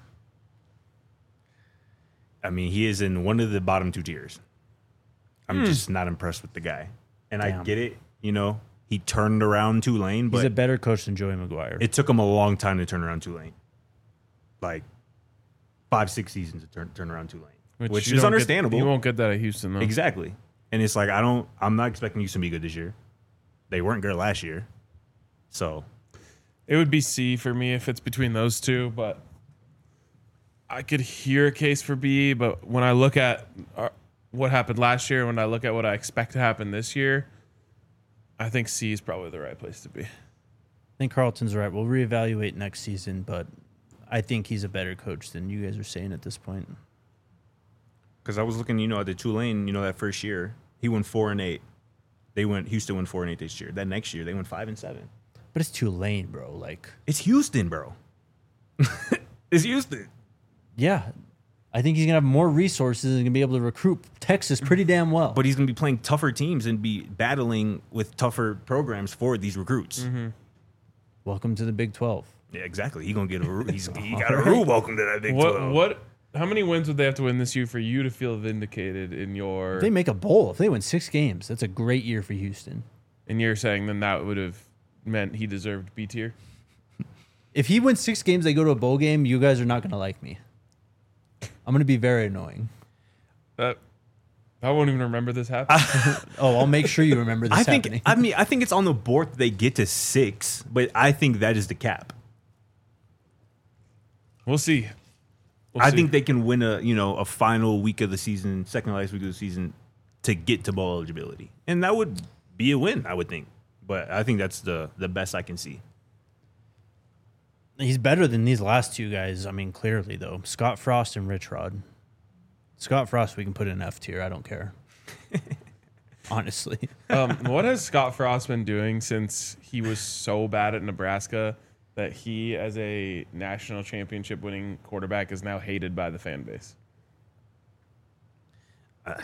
B: I mean, he is in one of the bottom 2 tiers. I'm just not impressed with the guy. And I
C: Damn.
B: get it, he turned around Tulane,
C: He's
B: but
C: a better coach than Joey McGuire.
B: it took him a long time to turn around Tulane. Like 5-6 seasons to turn around Tulane, which
A: you
B: is
A: don't get-
B: understandable.
A: you won't get that at Houston, though.
B: Exactly. And it's like I'm not expecting Houston to be good this year. They weren't good last year. So
A: It would be C for me if it's between those two, but I could hear a case for B, but when I look at what happened last year, when I look at what I expect to happen this year, I think C is probably the right place to be.
C: I think Carlton's right. We'll reevaluate next season, but I think he's a better coach than you guys are saying at this point.
B: Because I was looking, at the Tulane, that first year, he went 4-8. Houston went 4-8 this year. That next year, they went 5-7.
C: But it's Tulane, bro. Like,
B: it's Houston, bro. It's Houston.
C: yeah, I think he's gonna have more resources and gonna be able to recruit Texas pretty damn well.
B: But he's going to be playing tougher teams and be battling with tougher programs for these recruits.
A: Mm-hmm.
C: Welcome to the Big 12.
B: Yeah, exactly. He's going to get he got a rude welcome to that Big 12.
A: How many wins would they have to win this year for you to feel vindicated in your?
C: If they make a bowl, if they win 6 games, that's a great year for Houston.
A: And you're saying then that would have meant he deserved B tier?
C: If he wins 6 games, they go to a bowl game, you guys are not gonna like me. I'm gonna be very annoying.
A: I won't even remember this happening.
C: Oh, I'll make sure you remember this happening.
B: I think it's on the board that they get to 6, but I think that is the cap.
A: We'll see.
B: I think they can win a final week of the season, second last week of the season, to get to bowl eligibility, and that would be a win, I would think. But I think that's the best I can see.
C: He's better than these last 2 guys. I mean, clearly though, Scott Frost and Rich Rod. Scott Frost, we can put in F tier. I don't care. Honestly,
A: what has Scott Frost been doing since he was so bad at Nebraska that he, as a national championship winning quarterback, is now hated by the fan base?
C: I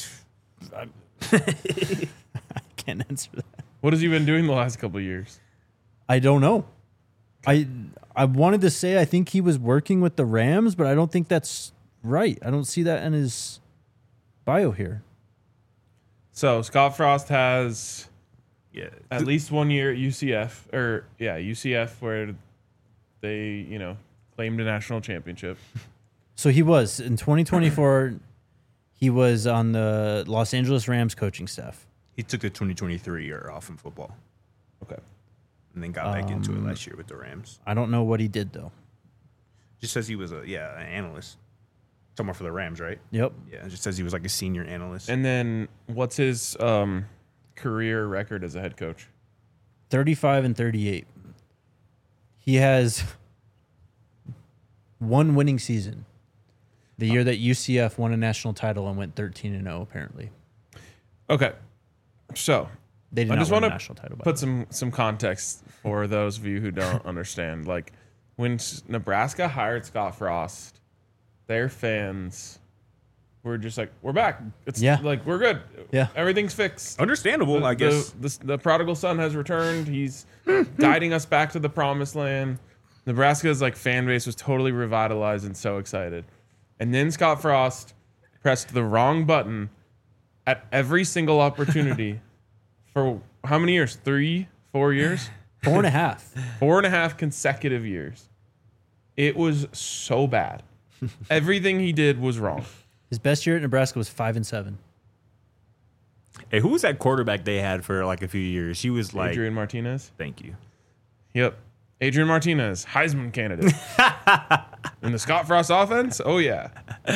C: can't answer that.
A: What has he been doing the last couple of years?
C: I don't know. I wanted to say I think he was working with the Rams, but I don't think that's right. I don't see that in his bio here.
A: So Scott Frost has at least 1 year at UCF where they, claimed a national championship.
C: So he was in 2024. He was on the Los Angeles Rams coaching staff.
B: He took the 2023 year off in football.
A: Okay.
B: And then got back into it last year with the Rams.
C: I don't know what he did though.
B: Just says he was an analyst. Somewhere for the Rams, right?
C: Yep.
B: Yeah, it just says he was like a senior analyst.
A: And then what's his career record as a head coach?
C: 35-38. He has 1 winning season. The year that UCF won a national title and went 13-0, apparently.
A: Okay. So
C: They did
A: I
C: not
A: just
C: win
A: want
C: a national title.
A: to put some context for those of you who don't understand. Like when Nebraska hired Scott Frost, their fans were just like, "We're back. It's like we're good.
C: Yeah,
A: everything's fixed."
B: Understandable, I guess.
A: The prodigal son has returned. He's guiding us back to the promised land. Nebraska's fan base was totally revitalized and so excited. And then Scott Frost pressed the wrong button at every single opportunity for how many years? 3, 4 years?
C: 4.5.
A: 4.5 consecutive years. It was so bad. Everything he did was wrong.
C: His best year at Nebraska was 5-7.
B: Hey, who was that quarterback they had for a few years? He was like
A: Adrian Martinez.
B: Thank you.
A: Yep. Adrian Martinez, Heisman candidate. In the Scott Frost offense? Oh, yeah.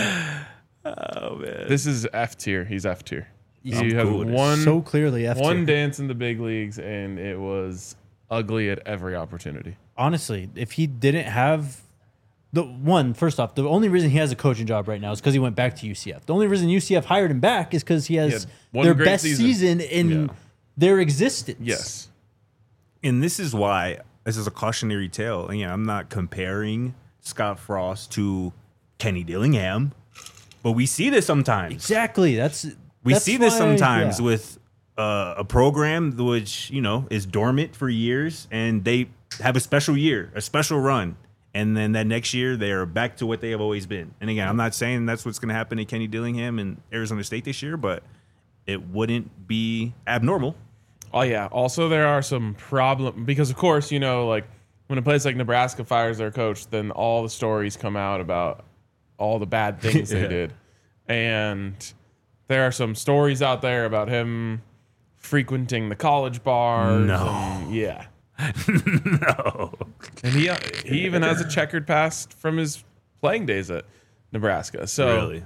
B: Oh, man.
A: This is F tier. He's F tier.
C: You
A: have
C: so clearly F tier.
A: one dance in the big leagues, and it was ugly at every opportunity.
C: Honestly, if he didn't have first off, the only reason he has a coaching job right now is because he went back to UCF. The only reason UCF hired him back is because he has their
A: great
C: best season in their existence.
A: Yes.
B: And this is why this is a cautionary tale. And I'm not comparing Scott Frost to Kenny Dillingham, but we see this sometimes.
C: Exactly.
B: We see this sometimes with a program which, is dormant for years, and they have a special year, a special run. And then that next year, they are back to what they have always been. And again, I'm not saying that's what's going to happen to Kenny Dillingham and Arizona State this year, but it wouldn't be abnormal.
A: Oh, yeah. Also, there are some problems because, of course, when a place like Nebraska fires their coach, then all the stories come out about all the bad things they did. And there are some stories out there about him frequenting the college bars.
B: No.
A: No. And he even has a checkered past from his playing days at Nebraska. So
B: Really?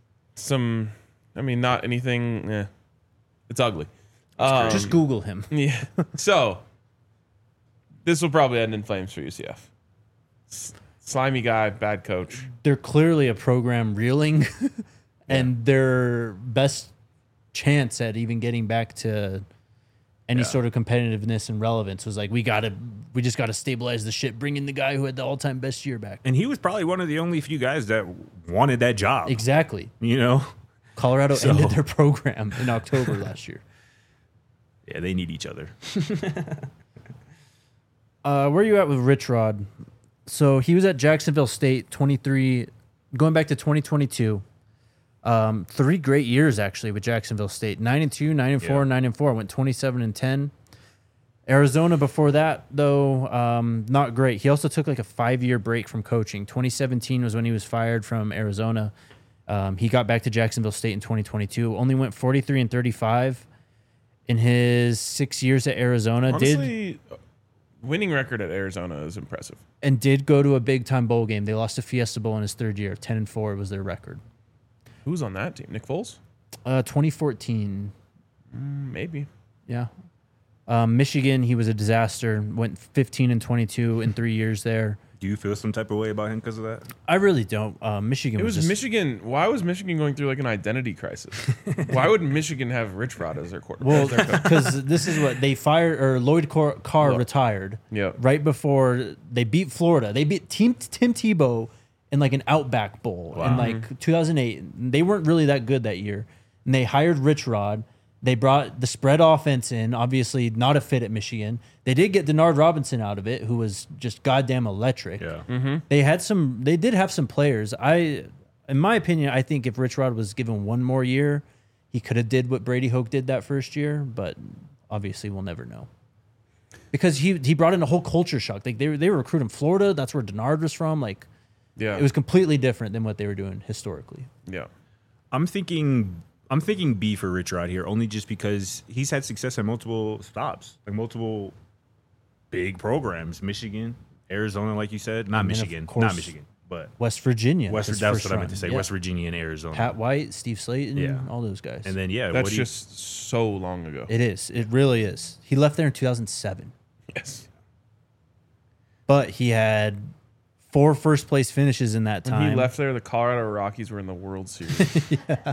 A: not anything. It's ugly.
C: Just Google him.
A: Yeah. So this will probably end in flames for UCF. Slimy guy, bad coach.
C: They're clearly a program reeling, and their best chance at even getting back to any sort of competitiveness and relevance was like, we just gotta stabilize the ship, bring in the guy who had the all-time best year back.
B: And he was probably one of the only few guys that wanted that job.
C: Exactly.
B: You know?
C: Colorado ended their program in October last year.
B: Yeah, they need each other.
C: Where are you at with Rich Rod? So he was at Jacksonville State, 23, going back to 2022. 3 great years actually with Jacksonville State. 9-2, 9-4, 9-4. Went 27-10. Arizona before that, though, not great. He also took like a 5-year break from coaching. 2017 was when he was fired from Arizona. He got back to Jacksonville State in 2022. Only went 43-35 in his 6 years at Arizona.
A: Honestly, winning record at Arizona is impressive.
C: Did go to a big time bowl game. They lost to Fiesta Bowl in his 3rd year. 10-4 was their record.
A: Who's on that team? Nick Foles?
C: 2014.
A: Maybe.
C: Yeah. Michigan, he was a disaster. Went 15-22 in 3 years there.
B: Do you feel some type of way about him because of that?
C: I really don't. Michigan
A: It was
C: just,
A: Michigan. Why was Michigan going through like an identity crisis? Why would Michigan have Rich Rod as their quarterback?
C: Well,
A: as their coach?
C: because this is what they fired, or Lloyd Carr retired
A: Yeah.
C: right before they beat Florida. They beat Tim Tebow in like an Outback Bowl in like 2008. They weren't really that good that year. And they hired Rich Rod. They brought the spread offense in, obviously not a fit at Michigan. They did get Denard Robinson out of it, who was just goddamn electric.
B: Yeah.
C: They did have some players. In my opinion, I think if Rich Rod was given one more year, he could have did what Brady Hoke did that first year, but obviously we'll never know. Because he brought in a whole culture shock. Like they were recruiting Florida, that's where Denard was from. Like
A: Yeah.
C: it was completely different than what they were doing historically.
A: Yeah.
B: I'm thinking B for Rich Rod here, only just because he's had success at multiple stops, like multiple big programs. Michigan, Arizona, like you said. Not Michigan, but
C: West Virginia.
B: That's
C: his
B: what
C: first
B: I meant
C: run.
B: to say.
C: Yeah.
B: West Virginia and Arizona.
C: Pat White, Steve Slayton,
B: Yeah.
C: all those guys.
B: And then
A: That's just so long ago.
C: It is. It really is. He left there in 2007.
A: Yes.
C: But he had 4 first-place finishes in that
A: When
C: time.
A: he left there, the Colorado Rockies were in the World Series.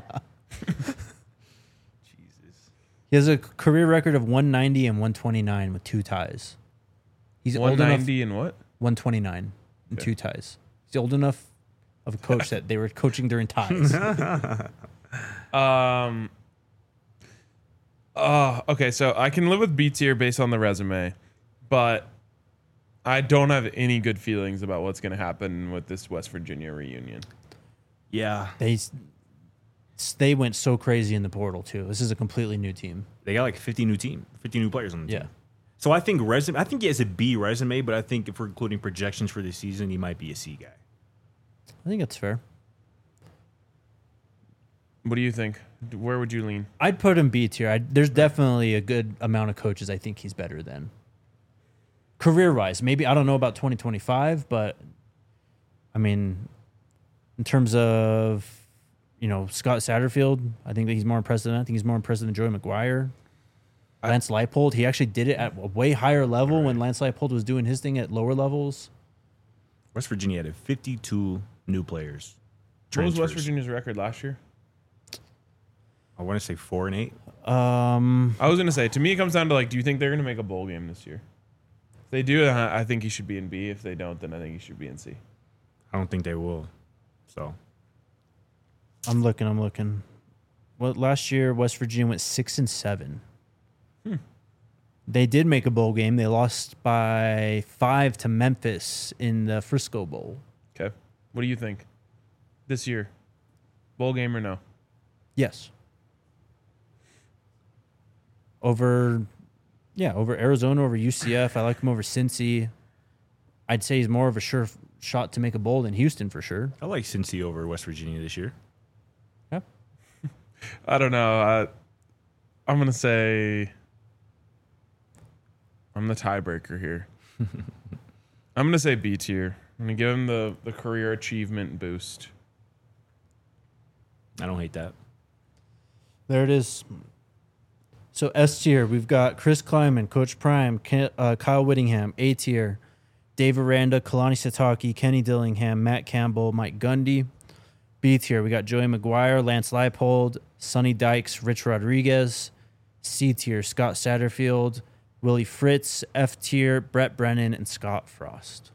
C: He has a career record of 190 and 129 with 2 ties. He's old enough.
A: 190 and what?
C: 129 and 2 ties. He's old enough of a coach that they were coaching during ties.
A: Okay, so I can live with B tier based on the resume, but I don't have any good feelings about what's going to happen with this West Virginia reunion.
B: yeah,
C: They went so crazy in the portal too. This is a completely new team.
B: they got like 50 new players on the team.
C: Yeah.
B: So I think I think he has a B resume, but I think if we're including projections for the season, he might be a C guy.
C: I think that's fair.
A: What do you think? Where would you lean?
C: I'd put him B tier. There's definitely a good amount of coaches I think he's better than. Career-wise, maybe I don't know about 2025, but I mean, in terms of Scott Satterfield, I think that he's more impressive. I think he's more impressive than Joey McGuire. Lance Leipold, he actually did it at a way higher level when Lance Leipold was doing his thing at lower levels.
B: West Virginia had 52 new players.
A: What was West
B: Transfers.
A: Virginia's record last year?
B: I want to say 4-8.
A: I was going to say, to me, it comes down to, like, do you think they're going to make a bowl game this year? If they do, I think he should be in B. If they don't, then I think he should be in C.
B: I don't think they will. So
C: I'm looking. Well, last year West Virginia went 6-7. They did make a bowl game. They lost by 5 to Memphis in the Frisco Bowl.
A: Okay. What do you think? This year? Bowl game or no?
C: Yes. Over Arizona, over UCF. I like him over Cincy. I'd say he's more of a sure shot to make a bowl than Houston for sure.
B: I like Cincy over West Virginia this year.
C: Yep.
A: I don't know. I'm going to say I'm the tiebreaker here. I'm going to say B tier. I'm gonna give him the career achievement boost.
B: I don't hate that.
C: There it is. So S tier, we've got Chris Kleiman, Coach Prime, Kyle Whittingham. A tier, Dave Aranda, Kalani Sitake, Kenny Dillingham, Matt Campbell, Mike Gundy. B tier, we got Joey McGuire, Lance Leipold, Sonny Dykes, Rich Rodriguez. C tier, Scott Satterfield, Willie Fritz. F tier, Brett Brennan, and Scott Frost.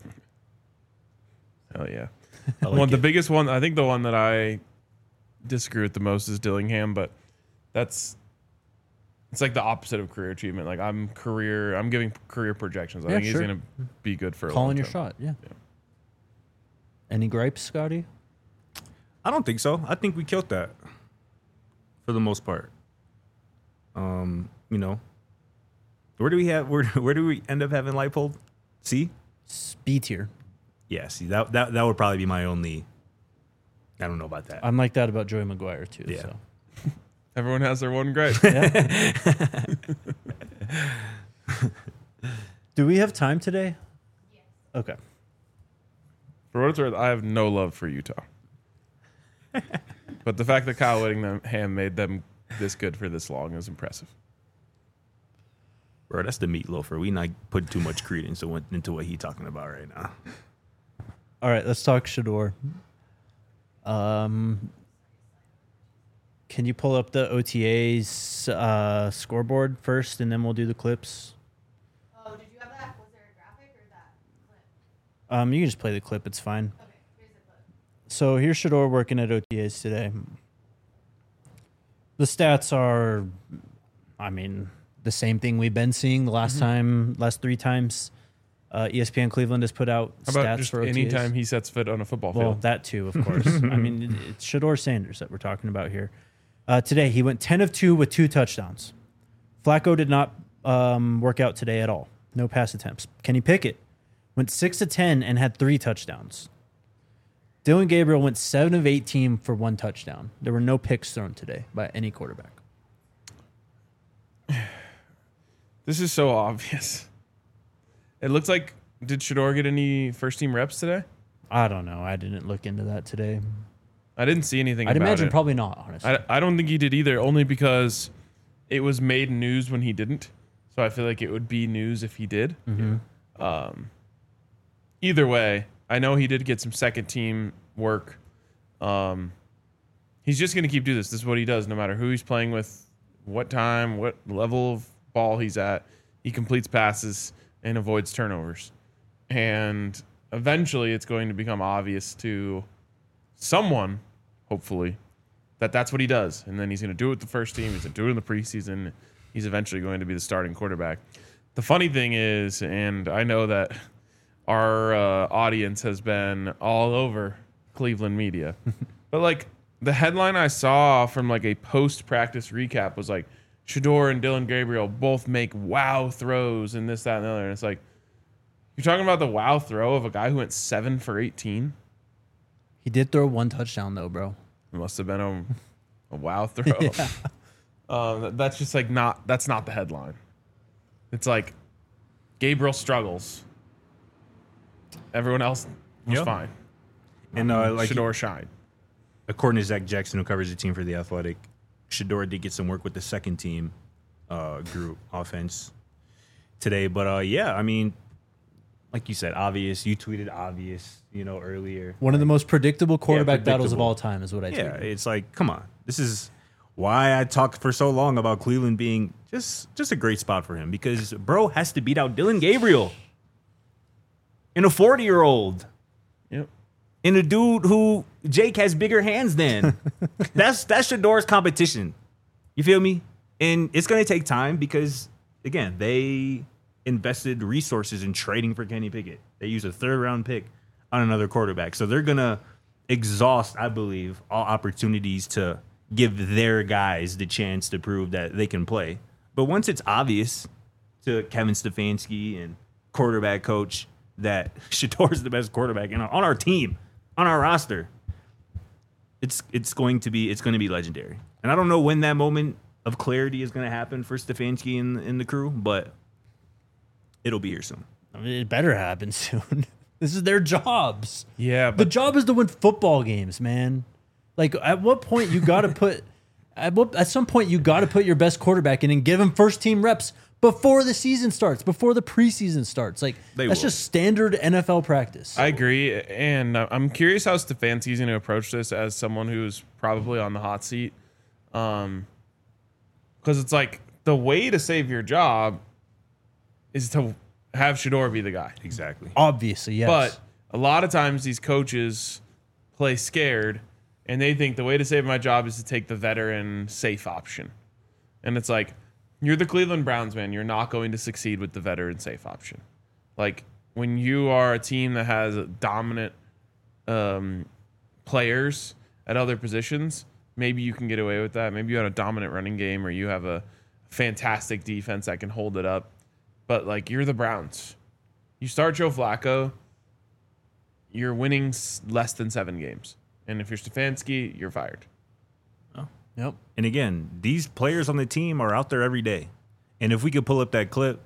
A: Hell yeah.
B: Like
A: The biggest one, I think the one that I disagree with the most is Dillingham, but it's like the opposite of career achievement. Like I'm giving career projections. I
C: Yeah,
A: think
C: sure.
A: he's gonna be good for a
C: Calling
A: long
C: your
A: time.
C: shot, yeah. Any gripes, Scotty?
B: I don't think so. I think we killed that for the most part. You know, where do we end up having Leipold? C?
C: B tier.
B: Yeah, see that would probably be my only. I don't know about that.
C: I'm like that about Joey McGuire too.
B: Yeah.
C: So.
A: Everyone has their one gripe.
C: Do we have time today? Yes. Okay.
A: For what it's worth, I have no love for Utah. But the fact that Kyle Whittingham made them this good for this long is impressive.
B: Bro, that's the meatloafer. We not put too much credence into what he's talking about right now.
C: All right, let's talk Shador. Can you pull up the OTA's scoreboard first, and then we'll do the clips?
D: Oh, did you have that? Was there a graphic or that clip?
C: You can just play the clip. It's fine.
D: Okay, here's the clip.
C: So here's Shador working at OTAs today. The stats are, the same thing we've been seeing the last 3 times. ESPN Cleveland has put out
A: How about
C: stats
A: just
C: for OTAs.
A: anytime he sets foot on a football
C: Well,
A: field?
C: that too, of course. It's Shador Sanders that we're talking about here. Today, he went 10 of 2 with 2 touchdowns. Flacco did not work out today at all. No pass attempts. Kenny Pickett went 6 of 10 and had 3 touchdowns. Dylan Gabriel went 7 of 18 for 1 touchdown. There were no picks thrown today by any quarterback.
A: This is so obvious. It looks like, did Shador get any first-team reps today?
C: I don't know. I didn't look into that today.
A: I didn't see anything
C: I'd
A: about
C: imagine
A: it.
C: probably not, honestly.
A: I don't think he did either, only because it was made news when he didn't. So I feel like it would be news if he did. Either way, I know he did get some second-team work. He's just going to keep doing this. This is what he does, no matter who he's playing with, what time, what level of ball he's at. He completes passes and avoids turnovers. And eventually it's going to become obvious to someone, hopefully, that that's what he does. And then he's going to do it with the first team. He's going to do it in the preseason. He's eventually going to be the starting quarterback. The funny thing is, and I know that our audience has been all over Cleveland media, but like the headline I saw from like a post-practice recap was like, Shador and Dylan Gabriel both make wow throws and this, that, and the other. And it's like, you're talking about the wow throw of a guy who went 7 for 18?
C: He did throw 1 touchdown, though, bro.
A: It must have been a wow throw. That's just like that's not the headline. It's like Gabriel struggles. Everyone else was
B: Yeah.
A: fine.
B: And
A: Shador shined.
B: according to Zach Jackson, who covers the team for The Athletic, Shador did get some work with the second team group offense today. But like you said, obvious. You tweeted obvious, earlier.
C: One of the most predictable quarterback battles of
B: predictable.
C: all time is what I
B: Yeah,
C: tweeted.
B: it's like, come on. This is why I talked for so long about Cleveland being just a great spot for him, because bro has to beat out Dylan Gabriel and a 40-year-old
A: Yep.
B: and a dude who Jake has bigger hands than. That's Shador's competition. You feel me? And it's going to take time because, again, they invested resources in trading for Kenny Pickett. They used a 3rd-round pick on another quarterback. So they're going to exhaust, I believe, all opportunities to give their guys the chance to prove that they can play. But once it's obvious to Kevin Stefanski and quarterback coach that Shador's the best quarterback on our team, on our roster, it's going to be legendary. And I don't know when that moment of clarity is going to happen for Stefanski and the crew, but it'll be here soon.
C: I mean, it better happen soon. This is their jobs.
A: Yeah,
C: The
A: but
C: job is to win football games, man. Like, at what point you got to put at some point you got to put your best quarterback in and give him first team reps before the season starts, before the preseason starts. Like, that's just standard NFL practice.
A: I agree, and I'm curious how Stefanski's going to approach this as someone who's probably on the hot seat, because it's like the way to save your job is to have Shador be the guy.
B: Exactly.
C: Obviously, yes.
A: But a lot of times these coaches play scared, and they think the way to save my job is to take the veteran safe option. And it's like, you're the Cleveland Browns, man. You're not going to succeed with the veteran safe option. Like, when you are a team that has dominant players at other positions, maybe you can get away with that. Maybe you have a dominant running game, or you have a fantastic defense that can hold it up. But, like, you're the Browns. You start Joe Flacco, you're winning less than 7 games. And if you're Stefanski, you're fired.
C: Yep.
B: And again, these players on the team are out there every day. And if we could pull up that clip,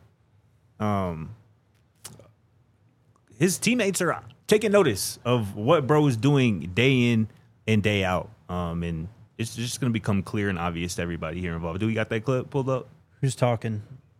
B: his teammates are taking notice of what bro is doing day in and day out. And it's just going to become clear and obvious to everybody here involved. Do we got that clip pulled up?
C: Who's talking?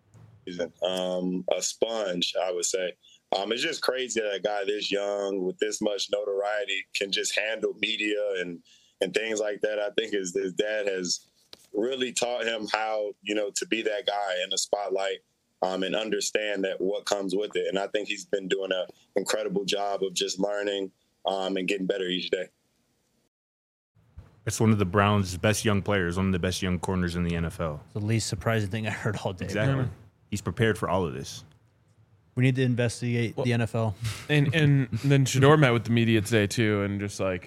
E: A sponge, I would say. It's just crazy that a guy this young with this much notoriety can just handle media and things like that. I think his dad has really taught him how, to be that guy in the spotlight and understand that what comes with it. And I think he's been doing an incredible job of just learning and getting better each day.
B: It's one of the Browns' best young players, one of the best young corners in the NFL.
C: The least surprising thing I heard all day.
B: Exactly.
C: Bro.
B: He's prepared for all of this.
C: We need to investigate the NFL.
A: And then Shador met with the media today, too, and just like,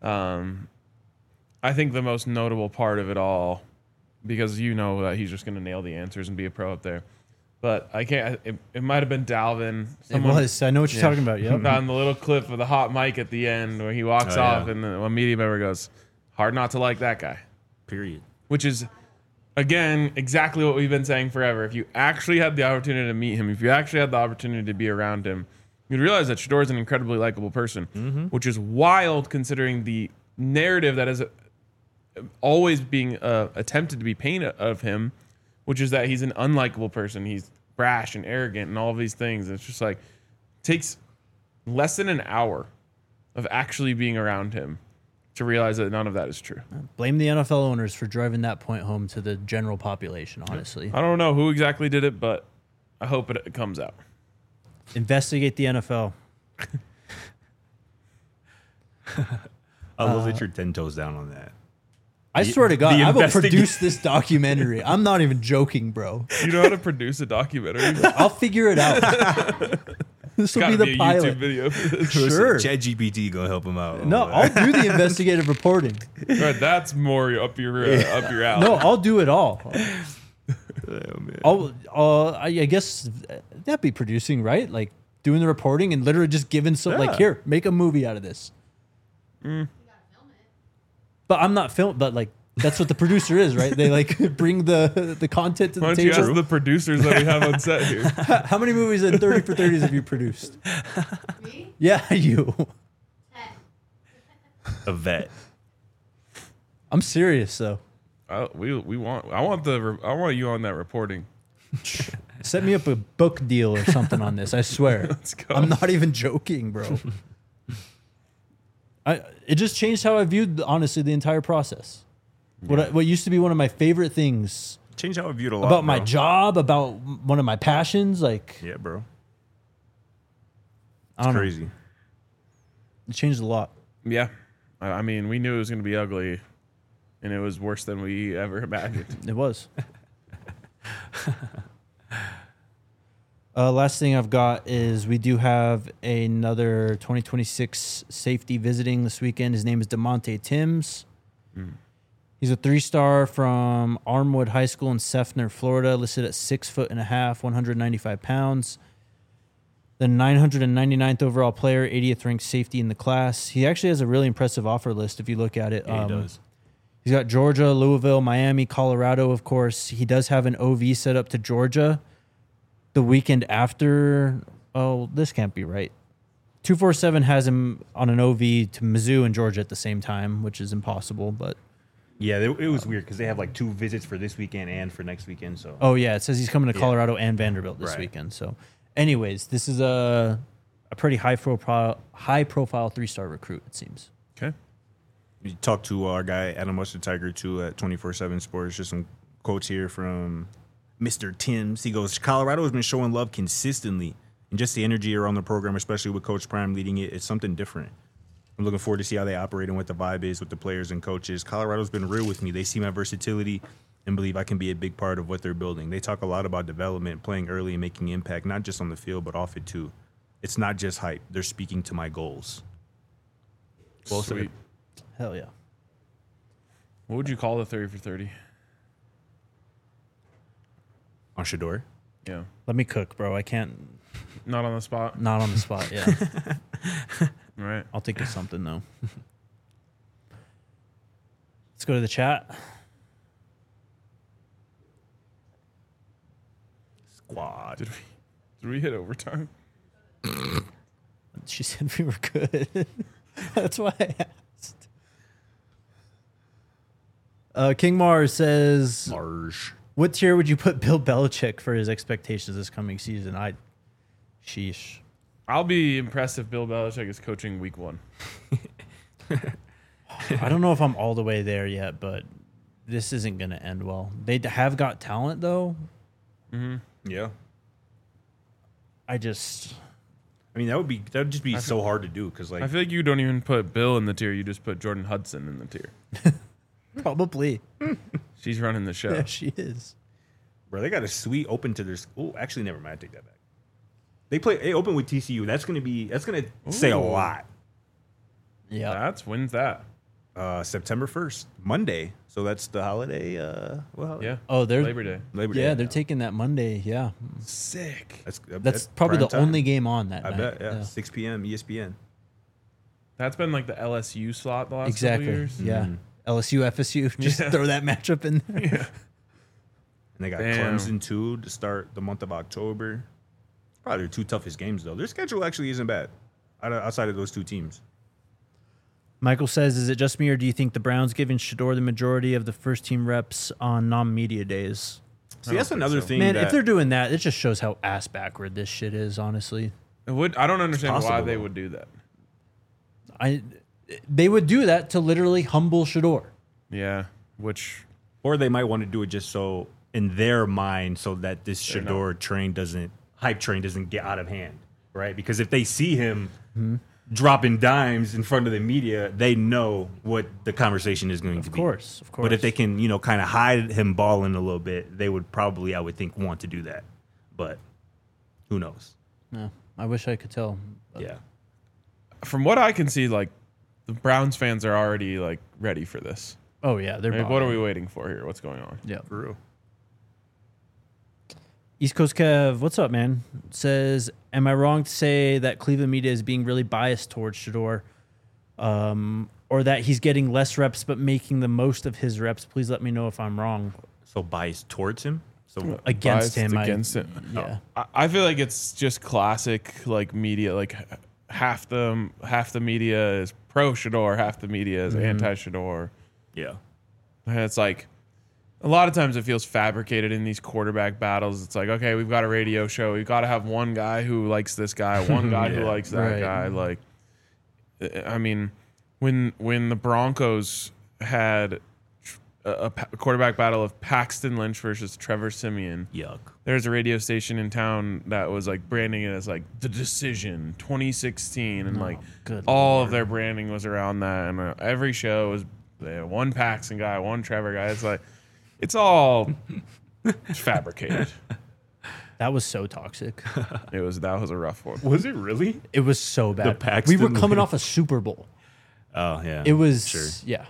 A: I think the most notable part of it all, because that he's just going to nail the answers and be a pro up there. But I can't. It might have been Dalvin.
C: It was. I know what you're talking about. Yep.
A: On the little clip of the hot mic at the end where he walks off, and one media member goes, "Hard not to like that guy."
B: Period.
A: Which is, again, exactly what we've been saying forever. If you actually had the opportunity to meet him, if you actually had the opportunity to be around him, you'd realize that Shador is an incredibly likable person, which is wild considering the narrative that is always being attempted to be painted of him, which is that he's an unlikable person. He's brash and arrogant and all of these things. It's just like, takes less than an hour of actually being around him to realize that none of that is true.
C: Blame the NFL owners for driving that point home to the general population, honestly.
A: I don't know who exactly did it, but I hope it comes out.
C: Investigate the NFL.
B: I love that you're 10 toes down on that.
C: I swear to God,
B: the
C: I will
B: investig-
C: produce this documentary. I'm not even joking, bro.
A: You know how to produce a documentary?
C: I'll figure it out. This will be the
A: a
C: pilot.
A: YouTube video for this.
C: Sure.
B: ChatGPT go help him out.
C: No, I'll do the investigative reporting.
A: Right, that's more up your alley.
C: No, I'll do it all.
B: Oh, man.
C: I guess that'd be producing, right? Like doing the reporting and literally just giving some, like,
B: Yeah.
C: here, make a movie out of this.
D: You gotta film it.
C: But I'm not film. But like, that's what the producer is, right? They like bring the content to
A: Why
C: the
A: don't you
C: table.
A: ask the producers that we have on set here?
C: How many movies in 30 for 30s have you produced?
D: Me?
C: Yeah, you.
D: 10.
B: A vet.
C: I'm serious though.
A: I want you on that reporting.
C: Set me up a book deal or something on this. I swear.
A: Let's go.
C: I'm not even joking, bro. It just changed how I viewed, honestly, the entire process. What used to be one of my favorite things
B: Change how I viewed a lot.
C: about my
B: bro.
C: job, about one of my passions, like,
B: Yeah, bro.
C: I don't know.
B: Crazy.
C: It changed a lot.
A: Yeah, I mean, we knew it was going to be ugly, and it was worse than we ever imagined.
C: It was. Last thing I've got is we do have another 2026 safety visiting this weekend. His name is DeMonte Timms. He's a 3-star from Armwood High School in Sefner, Florida, listed at 6'1", 195 pounds. The 999th overall player, 80th ranked safety in the class. He actually has a really impressive offer list if you look at it.
B: Yeah, he does.
C: He's got Georgia, Louisville, Miami, Colorado, of course. He does have an OV set up to Georgia the weekend after. Oh, this can't be right. 247 has him on an OV to Mizzou and Georgia at the same time, which is impossible. But
B: Yeah, it was weird because they have like 2 visits for this weekend and for next weekend. So
C: oh yeah, it says he's coming to
B: Yeah.
C: Colorado and Vanderbilt this
B: Right.
C: weekend. So, anyways, this is a pretty high profile 3-star recruit. It seems.
A: Okay.
B: we talked to our guy Adam Mustard Tiger too at 24/7 Sports. Just some quotes here from Mr. Timms. He goes, Colorado has been showing love consistently, and just the energy around the program, especially with Coach Prime leading it, it's something different. I'm looking forward to see how they operate and what the vibe is with the players and coaches. Colorado's been real with me. They see my versatility and believe I can be a big part of what they're building. They talk a lot about development, playing early and making impact, not just on the field, but off it too. It's not just hype. They're speaking to my goals. Well said.
A: Sweet.
C: Hell yeah.
A: What would you call the 30 for 30?
B: On Shador.
A: Yeah.
C: Let me cook, bro. I can't.
A: Not on the spot.
C: Not on the spot. Yeah.
A: All right.
C: I'll think of something though. Let's go to the chat.
B: Squad.
A: Did we hit overtime?
C: She said we were good. That's why I asked. King Mars says,
B: Marge.
C: what tier would you put Bill Belichick for his expectations this coming season? Sheesh.
A: I'll be impressed if Bill Belichick is coaching week 1.
C: I don't know if I'm all the way there yet, but this isn't going to end well. They have got talent, though.
B: Yeah.
C: I just...
B: I mean, that would just be so hard to do because, like,
A: I feel like you don't even put Bill in the tier. You just put Jordan Hudson in the tier.
C: Probably.
A: She's running the show.
C: Yeah, she is.
B: bro, they got a suite open to their school. Actually, never mind. I take that back. They open with TCU. That's gonna say a
A: Ooh.
B: lot.
C: Yeah.
A: When's that?
B: September 1st, Monday. So that's the holiday.
A: Yeah.
C: Oh, they're...
A: Labor Day.
B: Labor Day.
C: Yeah, they're taking that Monday. Yeah.
A: Sick.
C: That's probably the
B: prime time.
C: only game on that
B: I
C: night.
B: bet. Yeah. 6 p.m. ESPN.
A: That's been like the LSU slot the last
C: Exactly.
A: couple years.
C: Yeah. LSU, FSU. Just
A: Yeah.
C: throw that matchup in there.
A: Yeah.
B: And they got
A: Damn.
B: Clemson too to start the month of October. Probably their 2 toughest games though. Their schedule actually isn't bad outside of those 2 teams.
C: Michael says, is it just me or do you think the Browns giving Shador the majority of the first team reps on non-media days?
B: See, that's
A: think
B: another
A: so.
B: thing.
C: Man,
B: that,
C: if they're doing that, it just shows how ass backward this shit is, honestly.
A: I don't understand why
B: possible,
A: they
B: though.
A: would do that.
C: They would do that to literally humble Shador.
A: Yeah. Which
B: or they might want to do it just so in their mind, so that this
A: They're
B: Shador hype train doesn't get out of hand, right? Because if they see him dropping dimes in front of the media, they know what the conversation is going to
C: Of
B: be.
C: course.
B: But if they can, kind of hide him balling a little bit, they would probably, I would think, want to do that. But who knows?
C: No, I wish I could tell. But
B: Yeah.
A: from what I can see, like the Browns fans are already like ready for this.
C: Oh, yeah. They're
A: Like, what are
C: buying.
A: we waiting for here? What's going on?
C: Yeah.
B: For real.
C: East Coast Kev, what's up, man? Says, am I wrong to say that Cleveland media is being really biased towards Shador? Or that he's getting less reps but making the most of his reps? Please let me know if I'm wrong.
B: So biased towards him? So
C: Against
A: Biased
C: him.
A: Against it.
C: Yeah.
A: I feel like it's just classic like media. Like half the media is pro Shador, half the media is anti Shador.
B: yeah.
A: And it's like a lot of times it feels fabricated in these quarterback battles. It's like, okay, we've got a radio show. We've got to have one guy who likes this guy, one guy who
B: Yeah.
A: likes that
C: Right.
A: guy. Like, I mean, when the Broncos had a quarterback battle of Paxton Lynch versus Trevor Simeon,
B: Yuck.
A: there's a radio station in town that was like branding it as like The Decision 2016, and like
C: good
A: all of their branding was around that, and every show was one Paxton guy, one Trevor guy. It's like it's all fabricated.
C: That was so toxic.
A: That was a rough one.
B: Was it really?
C: It was so bad.
B: Paxton
C: We were coming
B: Lynch.
C: off a Super Bowl.
B: Oh, yeah.
C: It was,
B: Sure.
C: yeah,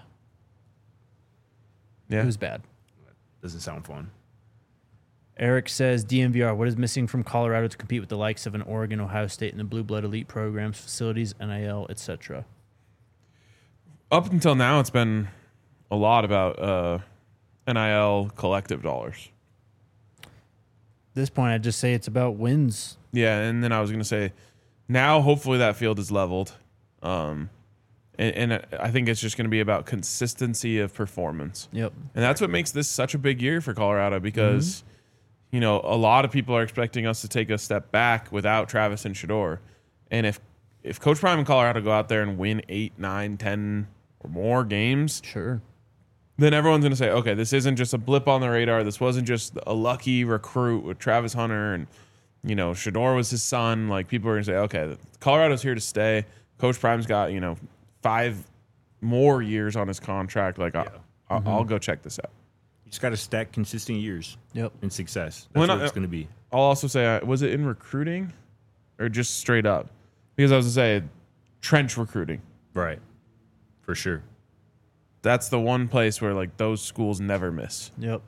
A: Yeah,
C: it was bad.
B: Doesn't sound fun.
C: Eric says, DMVR, what is missing from Colorado to compete with the likes of an Oregon, Ohio State, and the Blue Blood Elite programs, facilities, NIL, etc.?
A: up until now, it's been a lot about NIL collective dollars.
C: At this point, I'd just say it's about wins.
A: Yeah, and then I was gonna say Now, hopefully, that field is leveled. And I think it's just going to be about consistency of performance.
C: Yep.
A: And that's what makes this such a big year for Colorado because, you know, a lot of people are expecting us to take a step back without Travis and Shedeur. And if Coach Prime and Colorado go out there and win 8, 9, 10 or more games,
C: Sure.
A: then everyone's going to say, okay, this isn't just a blip on the radar. This wasn't just a lucky recruit with Travis Hunter and, you know, Shedeur was his son. Like, people are going to say, okay, Colorado's here to stay. Coach Prime's got, you know, 5 more years on his contract. Like, I'll go check this out.
B: You just got to stack consistent years.
C: Yep.
B: And success.
A: Well,
B: That's what it's going to be.
A: I'll also say, was it in recruiting or just straight up? Because I was going to say, trench recruiting.
B: Right. For sure.
A: That's the one place where, like, those schools never miss.
C: Yep.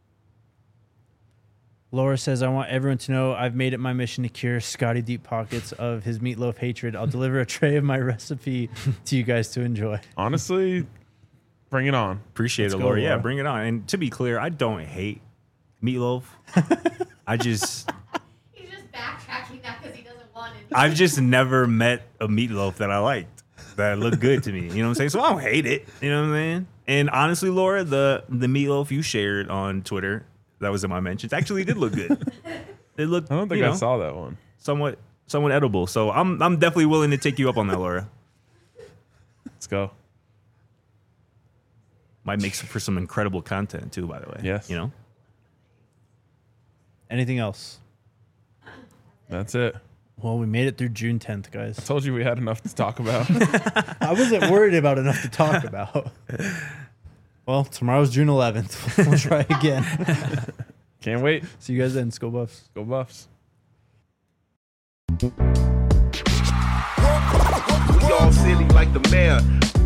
C: Laura says, I want everyone to know I've made it my mission to cure Scotty Deep Pockets of his meatloaf hatred. I'll deliver a tray of my recipe to you guys to enjoy.
A: Honestly, bring it on.
B: Appreciate
C: Let's
B: it,
C: go,
B: Laura. Yeah,
C: Laura.
B: bring it on. And to be clear, I don't hate meatloaf. I just...
D: He's just backtracking that because he doesn't want it.
B: I've just never met a meatloaf that I liked, that looked good to me. You know what I'm saying? So I don't hate it. You know what I'm saying? And honestly, Laura, the meatloaf you shared on Twitter, that was in my mentions, actually did look good. It looked,
A: I don't think I saw that one.
B: somewhat edible. So I'm definitely willing to take you up on that, Laura.
A: Let's go.
B: Might make for some incredible content too, by the way.
A: Yes.
B: You know?
C: Anything else?
A: That's it.
C: Well, we made it through June 10th, guys.
A: Told you we had enough to talk about.
C: I wasn't worried about enough to talk about. Well, tomorrow's June 11th. We'll try again.
A: Can't wait.
C: See you guys then. Skull Buffs.
A: Go Buffs.
F: We all silly like the mayor.